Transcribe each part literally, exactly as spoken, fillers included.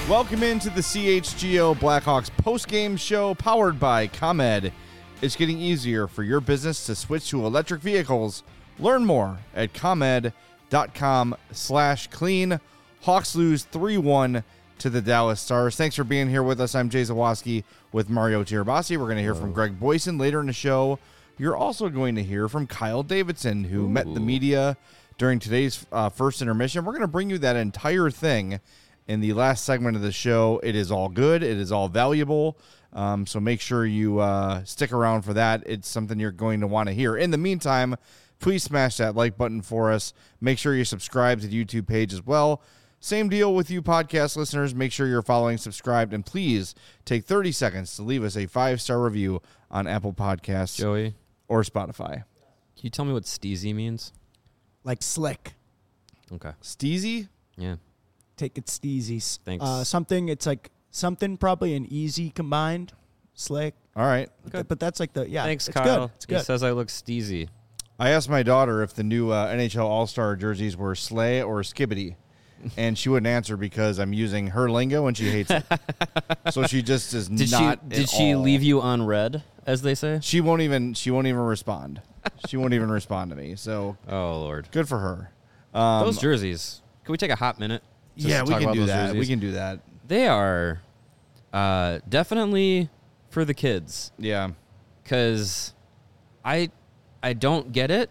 Welcome into the C H G O Blackhawks postgame show powered by ComEd. It's getting easier for your business to switch to electric vehicles. Learn more at ComEd.com slash clean. Hawks lose three one to the Dallas Stars. Thanks for being here with us. I'm Jay Zawoski with Mario Tirabassi. We're going to hear from Greg Boysen later in the show. You're also going to hear from Kyle Davidson, who Ooh. met the media during today's uh, first intermission. We're going to bring you that entire thing in the last segment of the show. It is all good. It is all valuable. Um, so make sure you uh, stick around for that. It's something you're going to want to hear. In the meantime, please smash that like button for us. Make sure you subscribe to the YouTube page as well. Same deal with you podcast listeners. Make sure you're following, subscribed, and please take thirty seconds to leave us a five-star review on Apple Podcasts Joey. or Spotify. Can you tell me what steezy means? Like slick. Okay. Steezy? Yeah. Take it steezy. Thanks. Uh, something, it's like something probably an easy combined. Slick. All right. Good. But that's like the, yeah. Thanks, it's Kyle. Good. It's good. He says I look steezy. I asked my daughter if the new uh, N H L All-Star jerseys were sleigh or skibbity, and she wouldn't answer because I'm using her lingo and she hates it. So she just is did not. She, did she all. leave you on red, as they say? She won't even. She won't even respond. She won't even respond to me. So oh Lord, good for her. Um, those jerseys. Can we take a hot minute? Just yeah, to we talk can about do those that. jerseys? We can do that. They are uh, definitely for the kids. Yeah, because I I don't get it.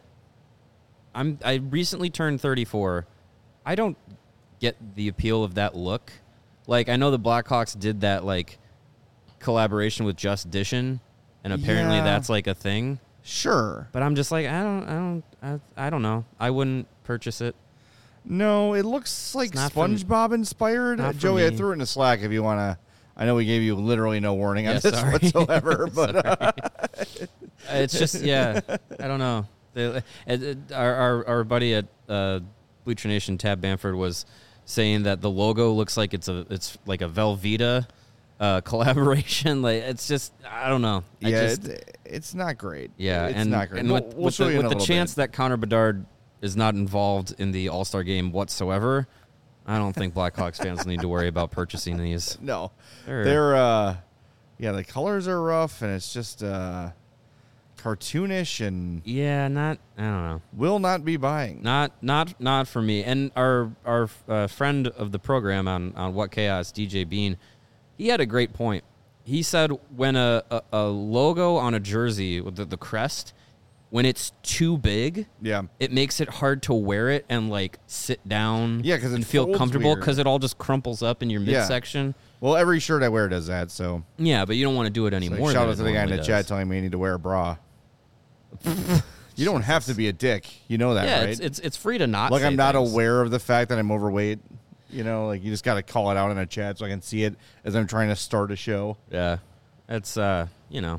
I'm I recently turned thirty-four. I don't get the appeal of that look. Like, I know the Blackhawks did that like collaboration with Just Dishin', and apparently Yeah. that's like a thing. Sure, But I'm just like, I don't, I don't, I, I don't know. I wouldn't purchase it. no, it looks like not for- SpongeBob inspired. not for Joey, I me. threw it in the Slack if you want to. I know we gave you literally no warning on Yeah, this sorry. whatsoever, but uh, It's just, yeah, I don't know. They, it, it, our, our our buddy at uh, Bleacher Nation, Tab Bamford, was saying that the logo looks like it's a it's like a Velveeta uh, collaboration. Like, it's just, I don't know. I yeah, just, it, it's not great. yeah, it's and, not great. and We'll- with, we'll with show the, you in with a the little chance bit. that Connor Bedard is not involved in the All Star game whatsoever, I don't think Blackhawks fans need to worry about purchasing these. No, They're- they're uh, yeah, the colors are rough and it's just uh, cartoonish and Yeah, not, I don't know. will not be buying. Not not not for me. And our our uh, friend of the program on, on What Chaos, D J Bean, he had a great point. He said when a, a, a logo on a jersey with the, the crest, when it's too big, Yeah, it makes it hard to wear it and like sit down Yeah, 'cause it and feel folds comfortable weird. because it all just crumples up in your Yeah. midsection. well, every shirt I wear does that. So Yeah, but you don't want to do it like, anymore. shout than out it to the guy in the normally chat does. telling me I need to wear a bra. You don't have to be a dick. You know that, Yeah, right? it's, it's it's free to not like say I'm not things. aware of the fact that I'm overweight. You know, like you just got to call it out in a chat so I can see it as I'm trying to start a show. Yeah, it's uh, you know.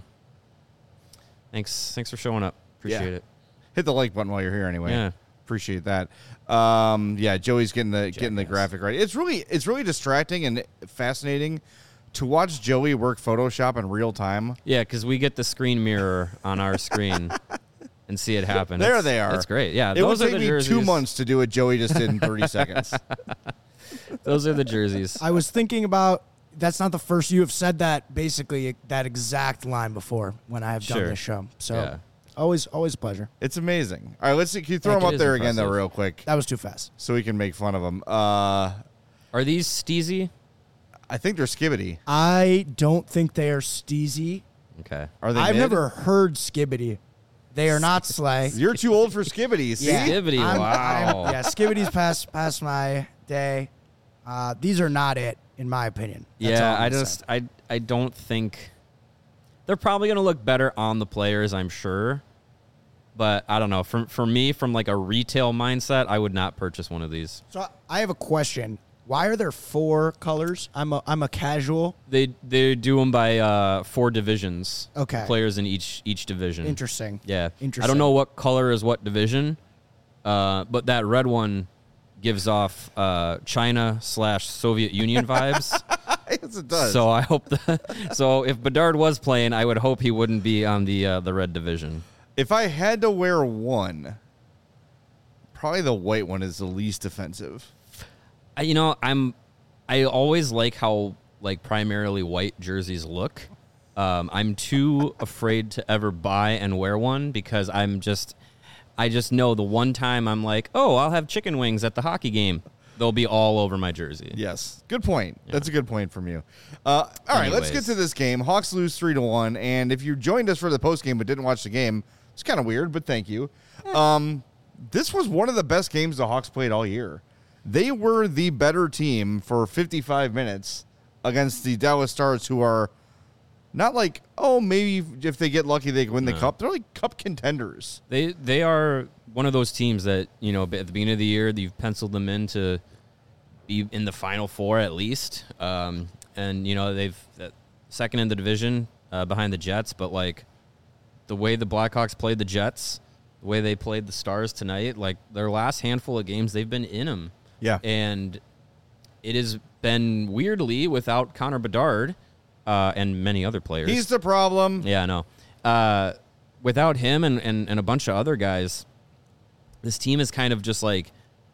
Thanks, thanks for showing up. Appreciate Yeah. it. Hit the like button while you're here anyway. Yeah. Appreciate that. Um, yeah, Joey's getting the getting the Jackass. graphic right. It's really it's really distracting and fascinating to watch Joey work Photoshop in real time. Yeah, because we get the screen mirror on our screen and see it happen. There It's- they are. That's great. Yeah, It those would are take the me jerseys. two months to do what Joey just did in thirty seconds. Those are the jerseys. I was thinking about, that's not the first you have said that, basically, that exact line before when I have done Sure. this show. So Yeah. always, always a pleasure. It's amazing. All right, let's see. Can you throw Heck, them it up is there again, though, impressive. real quick, That was too fast. so we can make fun of them. Uh, Are these steezy? I think they're skibbity. I don't think they are steezy. Okay. Are they? I've mid? never heard skibbity. They are not sleigh. You're too old for skibbity. See? Yeah. Skibbity, I'm- wow. I'm- yeah, skibbity's past past my day. Uh, these are not it, in my opinion. That's all yeah, I'm I gonna just say. I I don't think they're probably going to look better on the players, I'm sure. But I don't know. For for me, from like a retail mindset, I would not purchase one of these. So I have a question. Why are there four colors? I'm a I'm a casual. They they do them by uh, four divisions. Okay. Players in each each division. Interesting. Yeah. Interesting. I don't know what color is what division, uh, but that red one gives off uh, China slash Soviet Union vibes. Yes, it does. So I hope that. So if Bedard was playing, I would hope he wouldn't be on the uh, the red division. if I had to wear one, probably the white one is the least offensive. I, you know, I'm I always like how like primarily white jerseys look. Um, I'm too afraid to ever buy and wear one because I'm just, I just know the one time I'm like, oh, I'll have chicken wings at the hockey game. They'll be all over my jersey. Yes. Good point. Yeah. That's a good point from you. Uh, all right, let's get to this game. Hawks lose three to one. And if you joined us for the post game but didn't watch the game, it's kind of weird, but thank you. Um, this was one of the best games the Hawks played all year. They were the better team for fifty-five minutes against the Dallas Stars, who are not like, oh, maybe if they get lucky, they can win the no. cup. They're like cup contenders. They they are one of those teams that, you know, at the beginning of the year, you've penciled them in to be in the Final Four at least. Um, and, you know, they've uh, second in the division uh, behind the Jets. But, like, the way the Blackhawks played the Jets, the way they played the Stars tonight, like, their last handful of games, they've been in them. Yeah. And it has been weirdly without Connor Bedard uh, and many other players. He's the problem. Yeah, I know. Uh, without him and, and, and a bunch of other guys, this team is kind of just like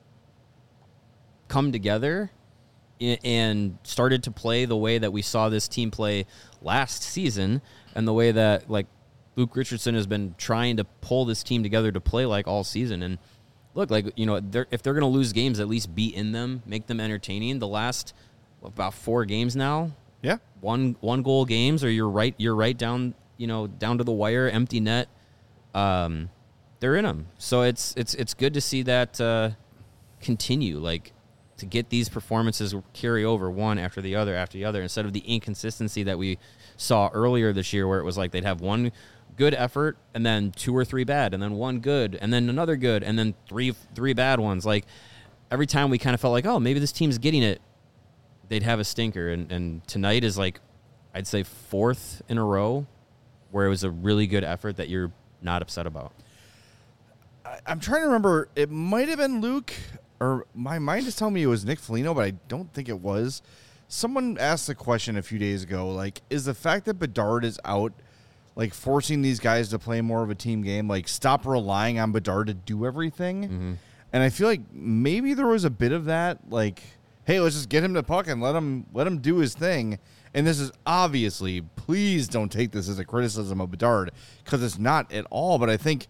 come together and started to play the way that we saw this team play last season and the way that like Luke Richardson has been trying to pull this team together to play like all season. And look, like, you know, they're, if they're going to lose games, at least be in them, make them entertaining. The last about four games now, yeah, one one goal games, or you're right, you're right down, you know, down to the wire, empty net. Um, they're in them, so it's it's it's good to see that uh, continue, like to get these performances carry over one after the other after the other, instead of the inconsistency that we saw earlier this year, where it was like they'd have one good effort and then two or three bad and then one good and then another good and then three three bad ones. Like every time we kind of felt like, oh, maybe this team's getting it, they'd have a stinker. And, and tonight is like, I'd say fourth in a row where it was a really good effort that you're not upset about. I, I'm trying to remember. It might have been Luke, or my mind is telling me it was Nick Foligno, but I don't think it was. Someone asked the question a few days ago, like, is the fact that Bedard is out like forcing these guys to play more of a team game, like stop relying on Bedard to do everything? Mm-hmm. And I feel like maybe there was a bit of that, like, hey, let's just get him the puck and let him let him do his thing. And this is obviously, please don't take this as a criticism of Bedard, because it's not at all. But I think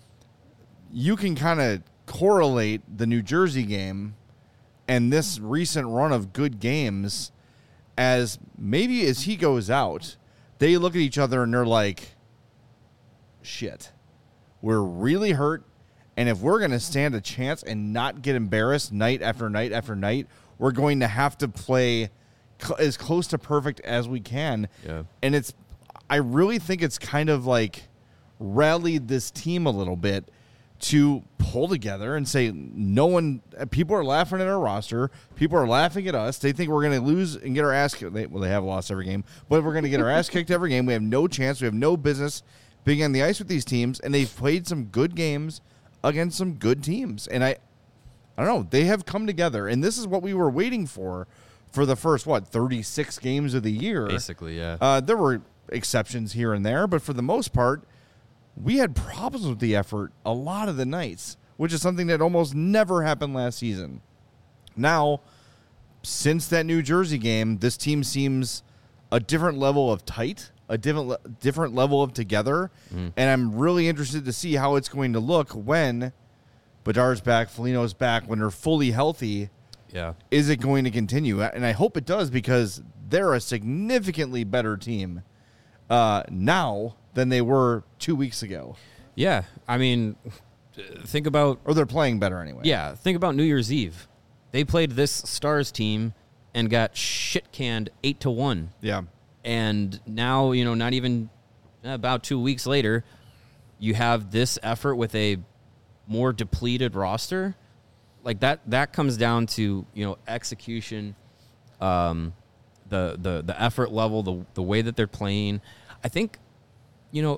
you can kind of correlate the New Jersey game and this recent run of good games as maybe as he goes out, they look at each other and they're like, shit, we're really hurt. And if we're going to stand a chance and not get embarrassed night after night after night, we're going to have to play cl- as close to perfect as we can. Yeah. And it's, I really think it's kind of like rallied this team a little bit to pull together and say, no one, people are laughing at our roster. People are laughing at us. They think we're going to lose and get our ass kicked. Well, they have lost every game, but we're going to get our ass kicked every game. We have no chance. We have no business being on the ice with these teams. And they've played some good games against some good teams. And I, I don't know, they have come together. And this is what we were waiting for, for the first, what, thirty-six games of the year. Basically, yeah. Uh, there were exceptions here and there, but for the most part, we had problems with the effort a lot of the nights, which is something that almost never happened last season. Now, since that New Jersey game, this team seems a different level of tight, a different le- different level of together, mm. and I'm really interested to see how it's going to look when Bedard's back, Foligno's back, when they're fully healthy. Yeah. Is it going to continue? And I hope it does, because they're a significantly better team uh, now than they were two weeks ago. Yeah, I mean, think about... Or they're playing better anyway. Yeah, think about New Year's Eve. They played this Stars team and got shit-canned eight to one. Yeah. And now, you know, not even about two weeks later, you have this effort with a more depleted roster. Like, that that comes down to, you know, execution, um, the, the, the effort level, the the way that they're playing. I think... You know,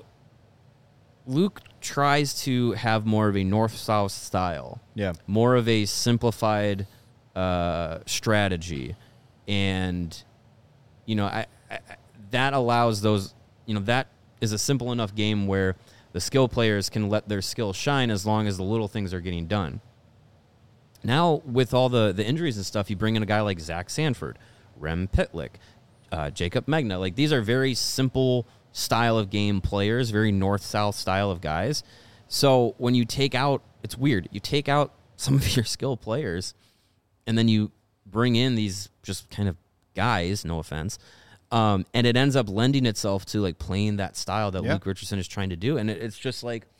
Luke tries to have more of a north-south style. Yeah. More of a simplified uh, strategy. And, you know, I, I, that allows those, you know, that is a simple enough game where the skill players can let their skill shine as long as the little things are getting done. Now, with all the, the injuries and stuff, you bring in a guy like Zach Sanford, Rem Pitlick, uh, Jacob Megna. Like, these are very simple style of game players, very north-south style of guys. So when you take out, it's weird, you take out some of your skill players, and then you bring in these just kind of guys, no offense, um, and it ends up lending itself to, like, playing that style that Yeah. Luke Richardson is trying to do. And it, it's just like,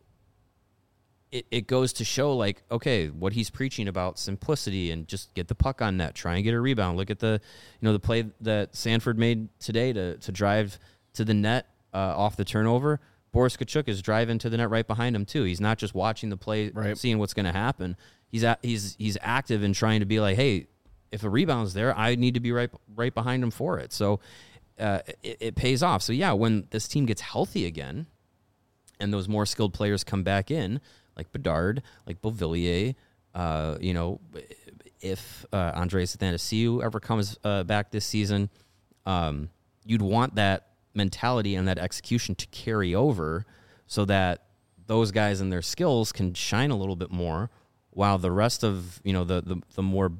It, it goes to show, like, okay, what he's preaching about simplicity and just get the puck on net, try and get a rebound. Look at the, you know, the play that Sanford made today to to drive to the net uh, off the turnover. Boris Tkachuk is driving to the net right behind him too. He's not just watching the play, Right. seeing what's going to happen. He's at, he's he's active in trying to be like, hey, if a rebound's there, I need to be right right behind him for it. So uh, it, it pays off. So yeah, when this team gets healthy again, and those more skilled players come back in, like Bedard, like Beauvillier, uh, you know, if uh, Andreas Athanasiou ever comes uh, back this season, um, you'd want that mentality and that execution to carry over so that those guys and their skills can shine a little bit more, while the rest of, you know, the the, the more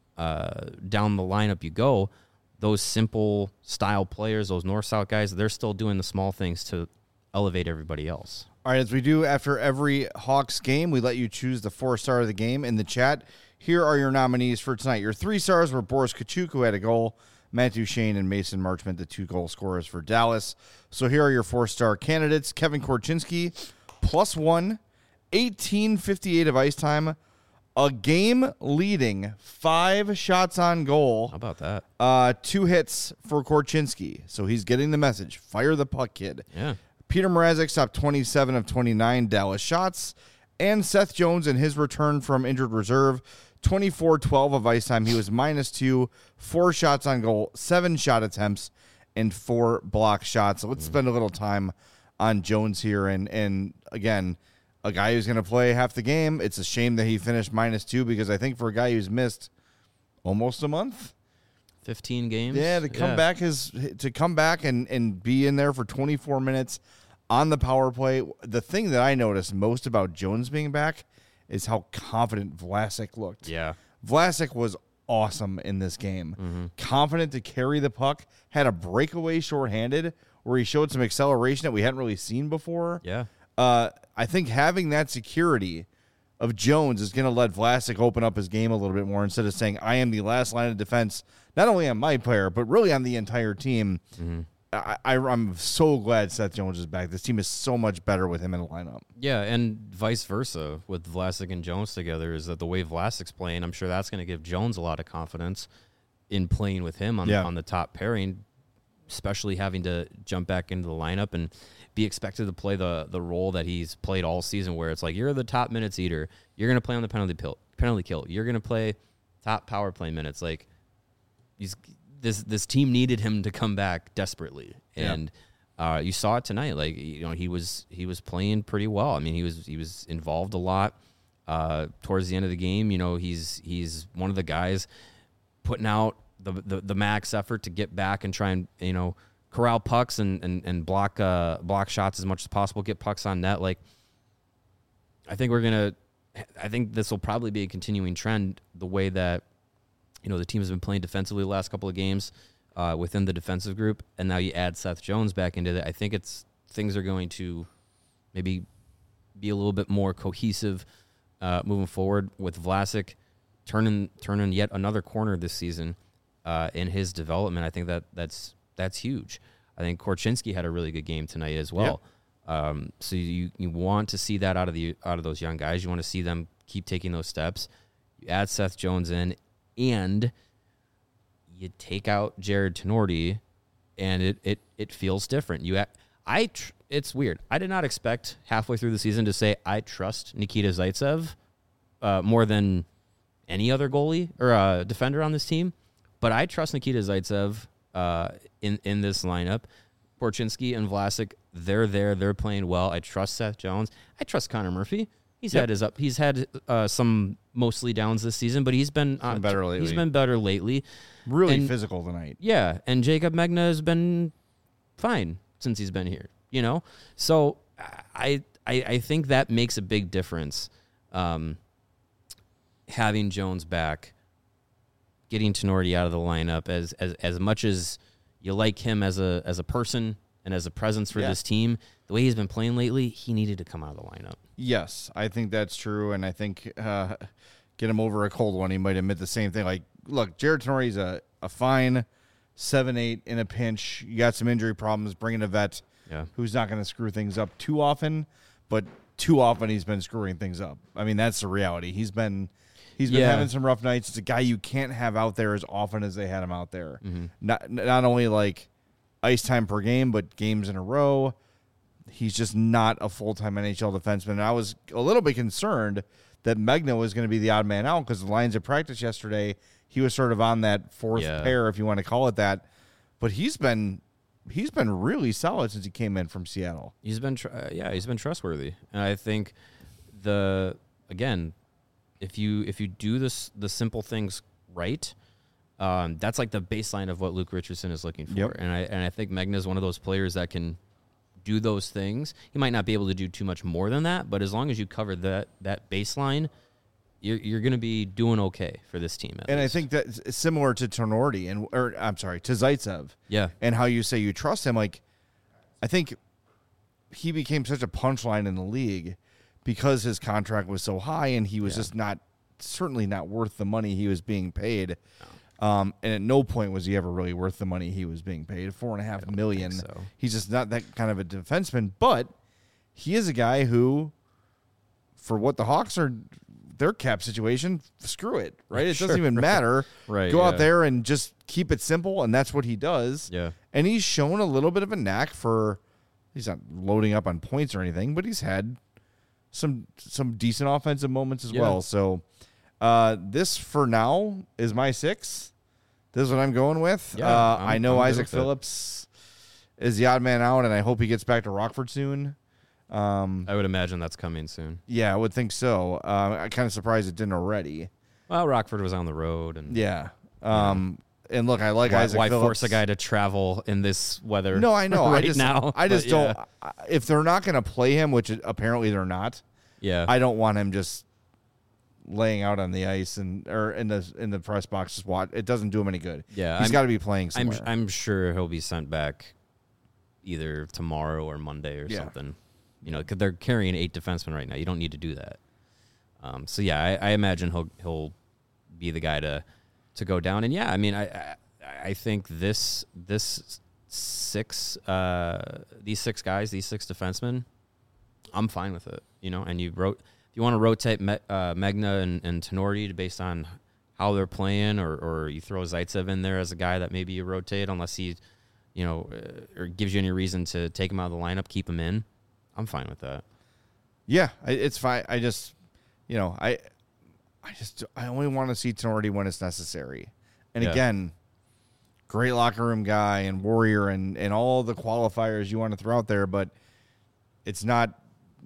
uh, down the lineup you go, those simple style players, those north-south guys, they're still doing the small things to elevate everybody else. All right, as we do after every Hawks game, we let you choose the four-star of the game in the chat. Here are your nominees for tonight. Your three stars were Boris Tkachuk, who had a goal, Matt Duchene and Mason Marchment, the two goal scorers for Dallas. So here are your four-star candidates. Kevin Korchinski, plus one, eighteen fifty-eight of ice time, a game-leading five shots on goal. How about that? Uh, two hits for Korchinski. So he's getting the message. Fire the puck, kid. Yeah. Peter Mrazek stopped twenty-seven of twenty-nine Dallas shots. And Seth Jones in his return from injured reserve, twenty-four twelve of ice time. He was minus two, four shots on goal, seven shot attempts, and four block shots. So let's spend a little time on Jones here. And, and again, a guy who's going to play half the game. It's a shame that he finished minus two, because I think for a guy who's missed almost a month, fifteen games. yeah, to come Yeah. back is to come back and, and be in there for twenty-four minutes on the power play. The thing that I noticed most about Jones being back is how confident Vlasic looked. Yeah. Vlasic was awesome in this game. Mm-hmm. Confident to carry the puck, had a breakaway shorthanded where he showed some acceleration that we hadn't really seen before. Yeah. Uh, I think having that security of Jones is going to let Vlasic open up his game a little bit more, instead of saying, I am the last line of defense, not only on my player, but really on the entire team. Mm-hmm. I, I, I'm so glad Seth Jones is back. This team is so much better with him in the lineup. Yeah, and vice versa with Vlasic and Jones together, is that the way Vlasic's playing, I'm sure that's going to give Jones a lot of confidence in playing with him on, Yeah. on the top pairing, especially having to jump back into the lineup and be expected to play the the role that he's played all season, where it's like, you're the top minutes eater. You're going to play on the penalty pill, penalty kill. You're going to play top power play minutes. Like, he's this this team needed him to come back desperately, Yeah. and uh, you saw it tonight. Like, you know, he was he was playing pretty well. I mean, he was he was involved a lot uh, towards the end of the game. You know, he's he's one of the guys putting out the the, the max effort to get back and try and, you know, corral pucks and and, and block uh, block shots as much as possible, get pucks on net. Like, I think we're gonna. I think this will probably be a continuing trend, the way that, you know, the team has been playing defensively the last couple of games uh, within the defensive group, and now you add Seth Jones back into that. I think it's things are going to maybe be a little bit more cohesive uh, moving forward, with Vlasic turning turning yet another corner this season uh, in his development. I think that that's that's huge. I think Korchinski had a really good game tonight as well. Um, so you you want to see that out of the out of those young guys. You want to see them keep taking those steps. You add Seth Jones in, and you take out Jared Tenorti, and it it it feels different. You, I, tr- it's weird. I did not expect halfway through the season to say I trust Nikita Zaitsev uh, more than any other goalie or uh, defender on this team, but I trust Nikita Zaitsev uh, in in this lineup. Korchinski and Vlasic, they're there, they're playing well. I trust Seth Jones. I trust Connor Murphy. He's Yep. had his up. He's had uh, some mostly downs this season, but he's been, uh, been better lately. He's been better lately. Really And- physical tonight. Yeah, and Jacob Megna has been fine since he's been here, you know? So I I, I think that makes a big difference. Um, having Jones back, getting Tenorti out of the lineup, as as as much as you like him as a as a person and as a presence for Yeah. this team, the way he's been playing lately, he needed to come out of the lineup. Yes, I think that's true, and I think uh, get him over a cold one. He might admit the same thing. Like, look, Jared Tenorti's a, a fine seven eight in a pinch. You got some injury problems. Bring in a vet Yeah. who's not going to screw things up too often, but too often he's been screwing things up. I mean, that's the reality. He's been he's been Yeah. having some rough nights. It's a guy you can't have out there as often as they had him out there. Mm-hmm. Not not only like ice time per game, but games in a row. He's just not a full-time N H L defenseman. And I was a little bit concerned that Megna was going to be the odd man out because the Lions at practice yesterday, he was sort of on that fourth Yeah. pair, if you want to call it that. But he's been he's been really solid since he came in from Seattle. He's been, tr- uh, yeah, he's been trustworthy, and I think the again, if you if you do this the simple things right, um, that's like the baseline of what Luke Richardson is looking for, Yep. and I and I think Megna is one of those players that can do those things. He might not be able to do too much more than that, but as long as you cover that that baseline, you're you're going to be doing okay for this team. At And least. I think that's similar to Tenorti and or I'm sorry, to Zaitsev. yeah, And how you say you trust him. Like, I think he became such a punchline in the league because his contract was so high and he was Yeah. just not, certainly not worth the money he was being paid. Um, and at no point was he ever really worth the money he was being paid. Four and a half million. think so. He's just not that kind of a defenseman. But he is a guy who, for what the Hawks are, their cap situation, screw it, right? It Sure, doesn't even right. matter. Right, Go out yeah. there and just keep it simple, and that's what he does. yeah. And he's shown a little bit of a knack for, he's not loading up on points or anything, but he's had some some decent offensive moments as Yeah. well. So uh, this, for now, is my six. This is what I'm going with. Yeah, uh, I'm- I know I'm good Isaac with it. Phillips is the odd man out, and I hope he gets back to Rockford soon. Um, I would imagine that's coming soon. yeah, I would think so. Uh, I'm kind of surprised it didn't already. Well, Rockford was on the road, and Yeah. Um, and look, I like why, Isaac why Phillips. force a guy to travel in this weather? No, I know. right I just, now. I just but don't. yeah. I- If they're not going to play him, which apparently they're not, Yeah, I don't want him just laying out on the ice and or in the in the press box. Just watch. It doesn't do him any good. Yeah, he's I'm- got to be playing I'm somewhere. I'm sure he'll be sent back either tomorrow or Monday or Yeah. something. You know, because they're carrying eight defensemen right now. You don't need to do that. Um, so yeah, I, I imagine he'll he'll be the guy to to go down. And yeah, I mean, I I, I think this this six uh, these six guys, these six defensemen, I'm fine with it. You know, and you wrote if you want to rotate Me, uh, Megna and, and Tenorti based on how they're playing, or or you throw Zaitsev in there as a guy that maybe you rotate unless he, you know, uh, or gives you any reason to take him out of the lineup, keep him in. I'm fine with that. yeah, I, it's fine. I just, you know, I, I just, I only want to see Tenorti when it's necessary. And Yeah. again, great locker room guy and warrior and and all the qualifiers you want to throw out there, but it's not.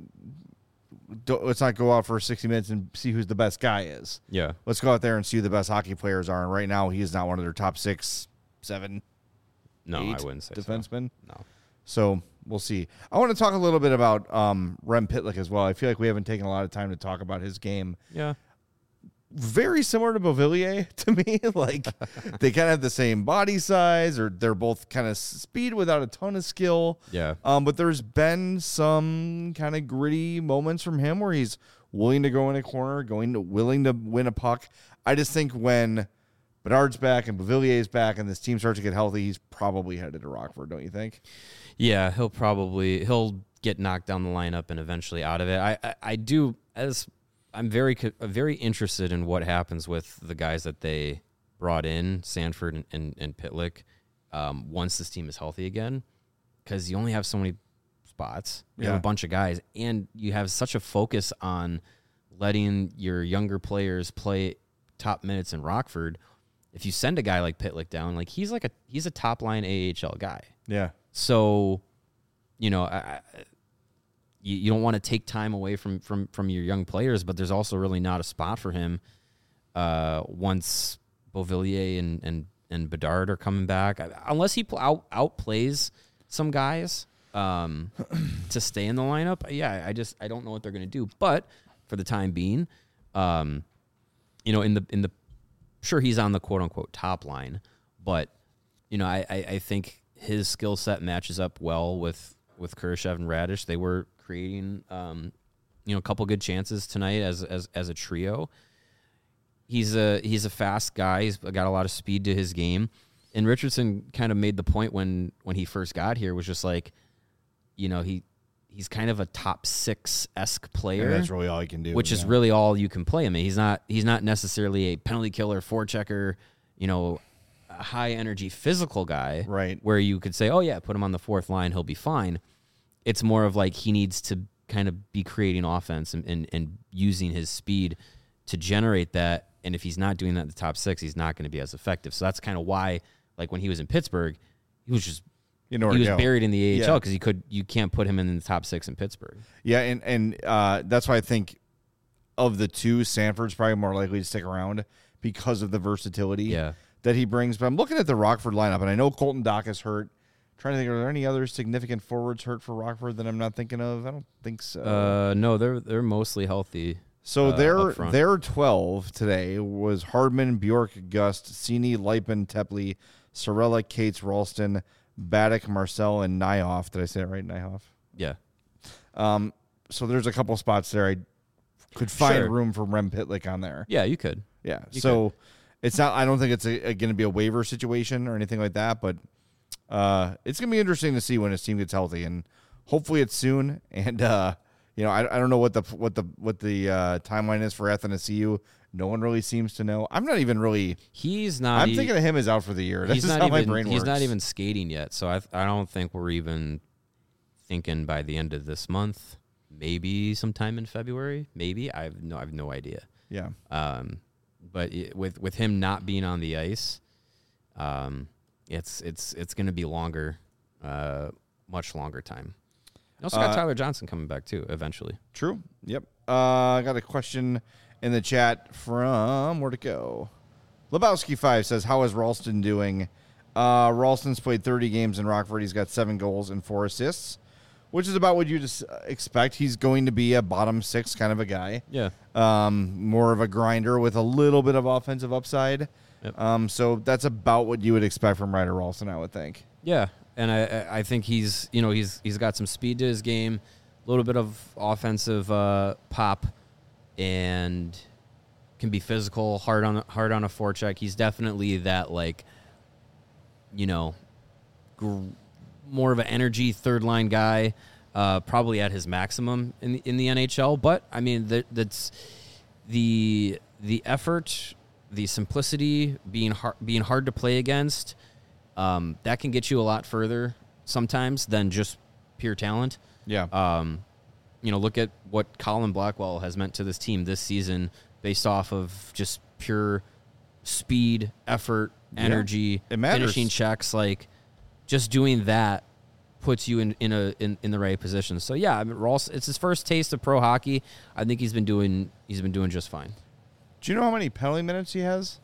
Don't, let's not go out for sixty minutes and see who's the best guy is. Yeah. Let's go out there and see who the best hockey players are. And right now, he is not one of their top six, seven, No, eight I wouldn't say so. defensemen. No. So we'll see. I want to talk a little bit about um, Rem Pitlick as well. I feel like we haven't taken a lot of time to talk about his game. Yeah. Very similar to Beauvillier to me. Like they kind of have the same body size, or they're both kind of speed without a ton of skill. Yeah. Um, but there's been some kind of gritty moments from him where he's willing to go in a corner, going to willing to win a puck. I just think when Bedard's back and Beauvillier's back and this team starts to get healthy, he's probably headed to Rockford, don't you think? Yeah, he'll probably he'll get knocked down the lineup and eventually out of it. I I, I do as I'm very co- very interested in what happens with the guys that they brought in, Sanford and and, and Pitlick, um, once this team is healthy again, because you only have so many spots. You Yeah. have a bunch of guys, and you have such a focus on letting your younger players play top minutes in Rockford. If you send a guy like Pitlick down, like he's like a he's a top line A H L guy. Yeah. So, you know, I, I, you, you don't want to take time away from, from, from your young players, but there's also really not a spot for him uh, once Beauvillier and, and, and Bedard are coming back, unless he pl- out outplays some guys um, to stay in the lineup. Yeah, I just I don't know what they're going to do. But for the time being, um, you know, in the in the sure he's on the quote unquote top line, but you know, I I, I think his skill set matches up well with with Kurashev and Radish. They were creating um, you know, a couple good chances tonight as as as a trio. He's a he's a fast guy. He's got a lot of speed to his game. And Richardson kind of made the point when when he first got here was just like, you know, he he's kind of a top six-esque player. And that's really all he can do. Which yeah. is really all you can play him. He's not he's not necessarily a penalty killer, forechecker, you know, a high energy physical guy. Right. Where you could say, oh yeah, put him on the fourth line, he'll be fine. It's more of like he needs to kind of be creating offense and, and, and using his speed to generate that. And if he's not doing that in the top six, he's not going to be as effective. So that's kind of why, like when he was in Pittsburgh, he was just You know he was go. buried in the A H L Yeah. because he could you can't put him in the top six in Pittsburgh. Yeah, and and uh, that's why I think of the two, Sanford's probably more likely to stick around because of the versatility Yeah. that he brings. But I'm looking at the Rockford lineup, and I know Colton Dock is hurt. Trying to think, are there any other significant forwards hurt for Rockford that I'm not thinking of? I don't think so. Uh, no, they're they're mostly healthy. so uh, their up front. their twelve today was Hardman, Bjork, Gust, Cini, Lipin, Tepley, Sorella, Cates, Ralston, Baddock, Marcel, and Nyhoff. Did I say it right, Nyhoff? Yeah. Um, so there's a couple spots there I could find Sure. room for Rem Pitlick on there. Yeah, you could. Yeah. You so it's not. I don't think it's a, a, going to be a waiver situation or anything like that. But uh, it's going to be interesting to see when his team gets healthy, and hopefully it's soon. And uh, you know, I, I don't know what the what the what the uh, timeline is for Athanasiou. No one really seems to know. I'm not even really. He's not. I'm e- thinking of him as out for the year. That's he's just not how even. my brain he's works. not even skating yet. So I I don't think we're even thinking by the end of this month. Maybe sometime in February. Maybe I have no. I have no idea. Yeah. Um, but it, with with him not being on the ice, um, it's it's it's going to be longer, uh, much longer time. You also got Uh, Tyler Johnson coming back too eventually. True. Yep. Uh, I got a question in the chat from where'd it go? Lebowski five says, "How is Ralston doing?" Uh, Ralston's played thirty games in Rockford. He's got seven goals and four assists, which is about what you just expect. He's going to be a bottom six kind of a guy. Yeah. Um, more of a grinder with a little bit of offensive upside. Yep. Um, so that's about what you would expect from Ryder Ralston, I would think. Yeah, and I I- I think he's you know he's he's got some speed to his game, a little bit of offensive uh, pop, and can be physical, hard on hard on a forecheck. He's definitely that like, you know, gr- more of an energy third line guy, uh, probably at his maximum in the, in the N H L. But I mean that that's the the effort, the simplicity, being hard, being hard to play against. Um, that can get you a lot further sometimes than just pure talent. Yeah. Um, you know, look at what Colin Blackwell has meant to this team this season based off of just pure speed, effort, Yeah, energy, it matters. finishing checks. Like, just doing that puts you in, in a in, in the right position. So yeah, I mean, Ross, it's his first taste of pro hockey. I think he's been doing he's been doing just fine. Do you know how many penalty minutes he has?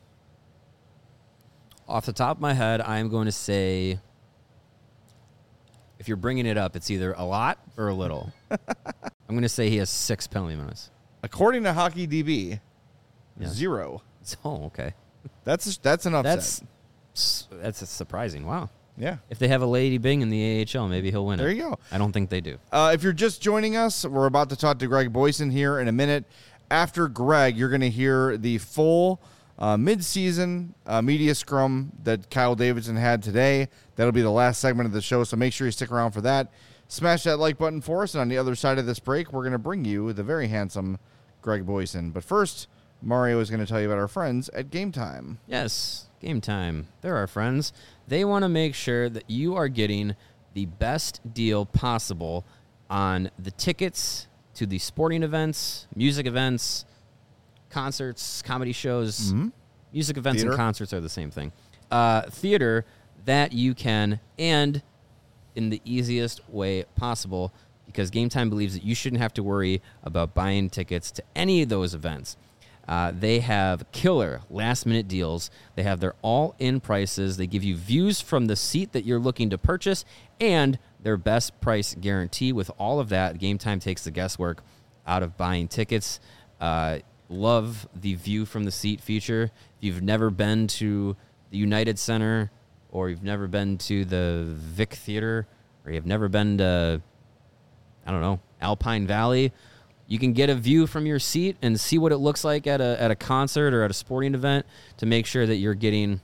Off the top of my head, I am going to say, if you're bringing it up, it's either a lot or a little. I'm going to say he has six penalty minutes. According to Hockey D B, Yeah. zero. Oh, okay. That's that's an upset. That's that's surprising. Wow. yeah. If they have a Lady Bing in the A H L, maybe he'll win There it. you go. I don't think they do. Uh, if you're just joining us, we're about to talk to Greg Boyson here in a minute. After Greg, you're going to hear the full uh, mid-season uh, media scrum that Kyle Davidson had today. That'll be the last segment of the show, so make sure you stick around for that. Smash that like button for us, and on the other side of this break, we're going to bring you the very handsome Greg Boyson. But first, Mario is going to tell you about our friends at Game Time. Yes, Game Time. They're our friends. They want to make sure that you are getting the best deal possible on the tickets to the sporting events, music events, concerts, comedy shows. Mhm. Music events Theater. and concerts are the same thing. Uh, theater that you can, and in the easiest way possible, because Game Time believes that you shouldn't have to worry about buying tickets to any of those events. Uh, they have killer last-minute deals. They have their all-in prices. They give you views from the seat that you're looking to purchase, and their best price guarantee. With all of that, Game Time takes the guesswork out of buying tickets. Uh, love the view from the seat feature. If you've never been to the United Center, or you've never been to the Vic Theater, or you've never been to, I don't know, Alpine Valley, you can get a view from your seat and see what it looks like at a at a concert or at a sporting event to make sure that you're getting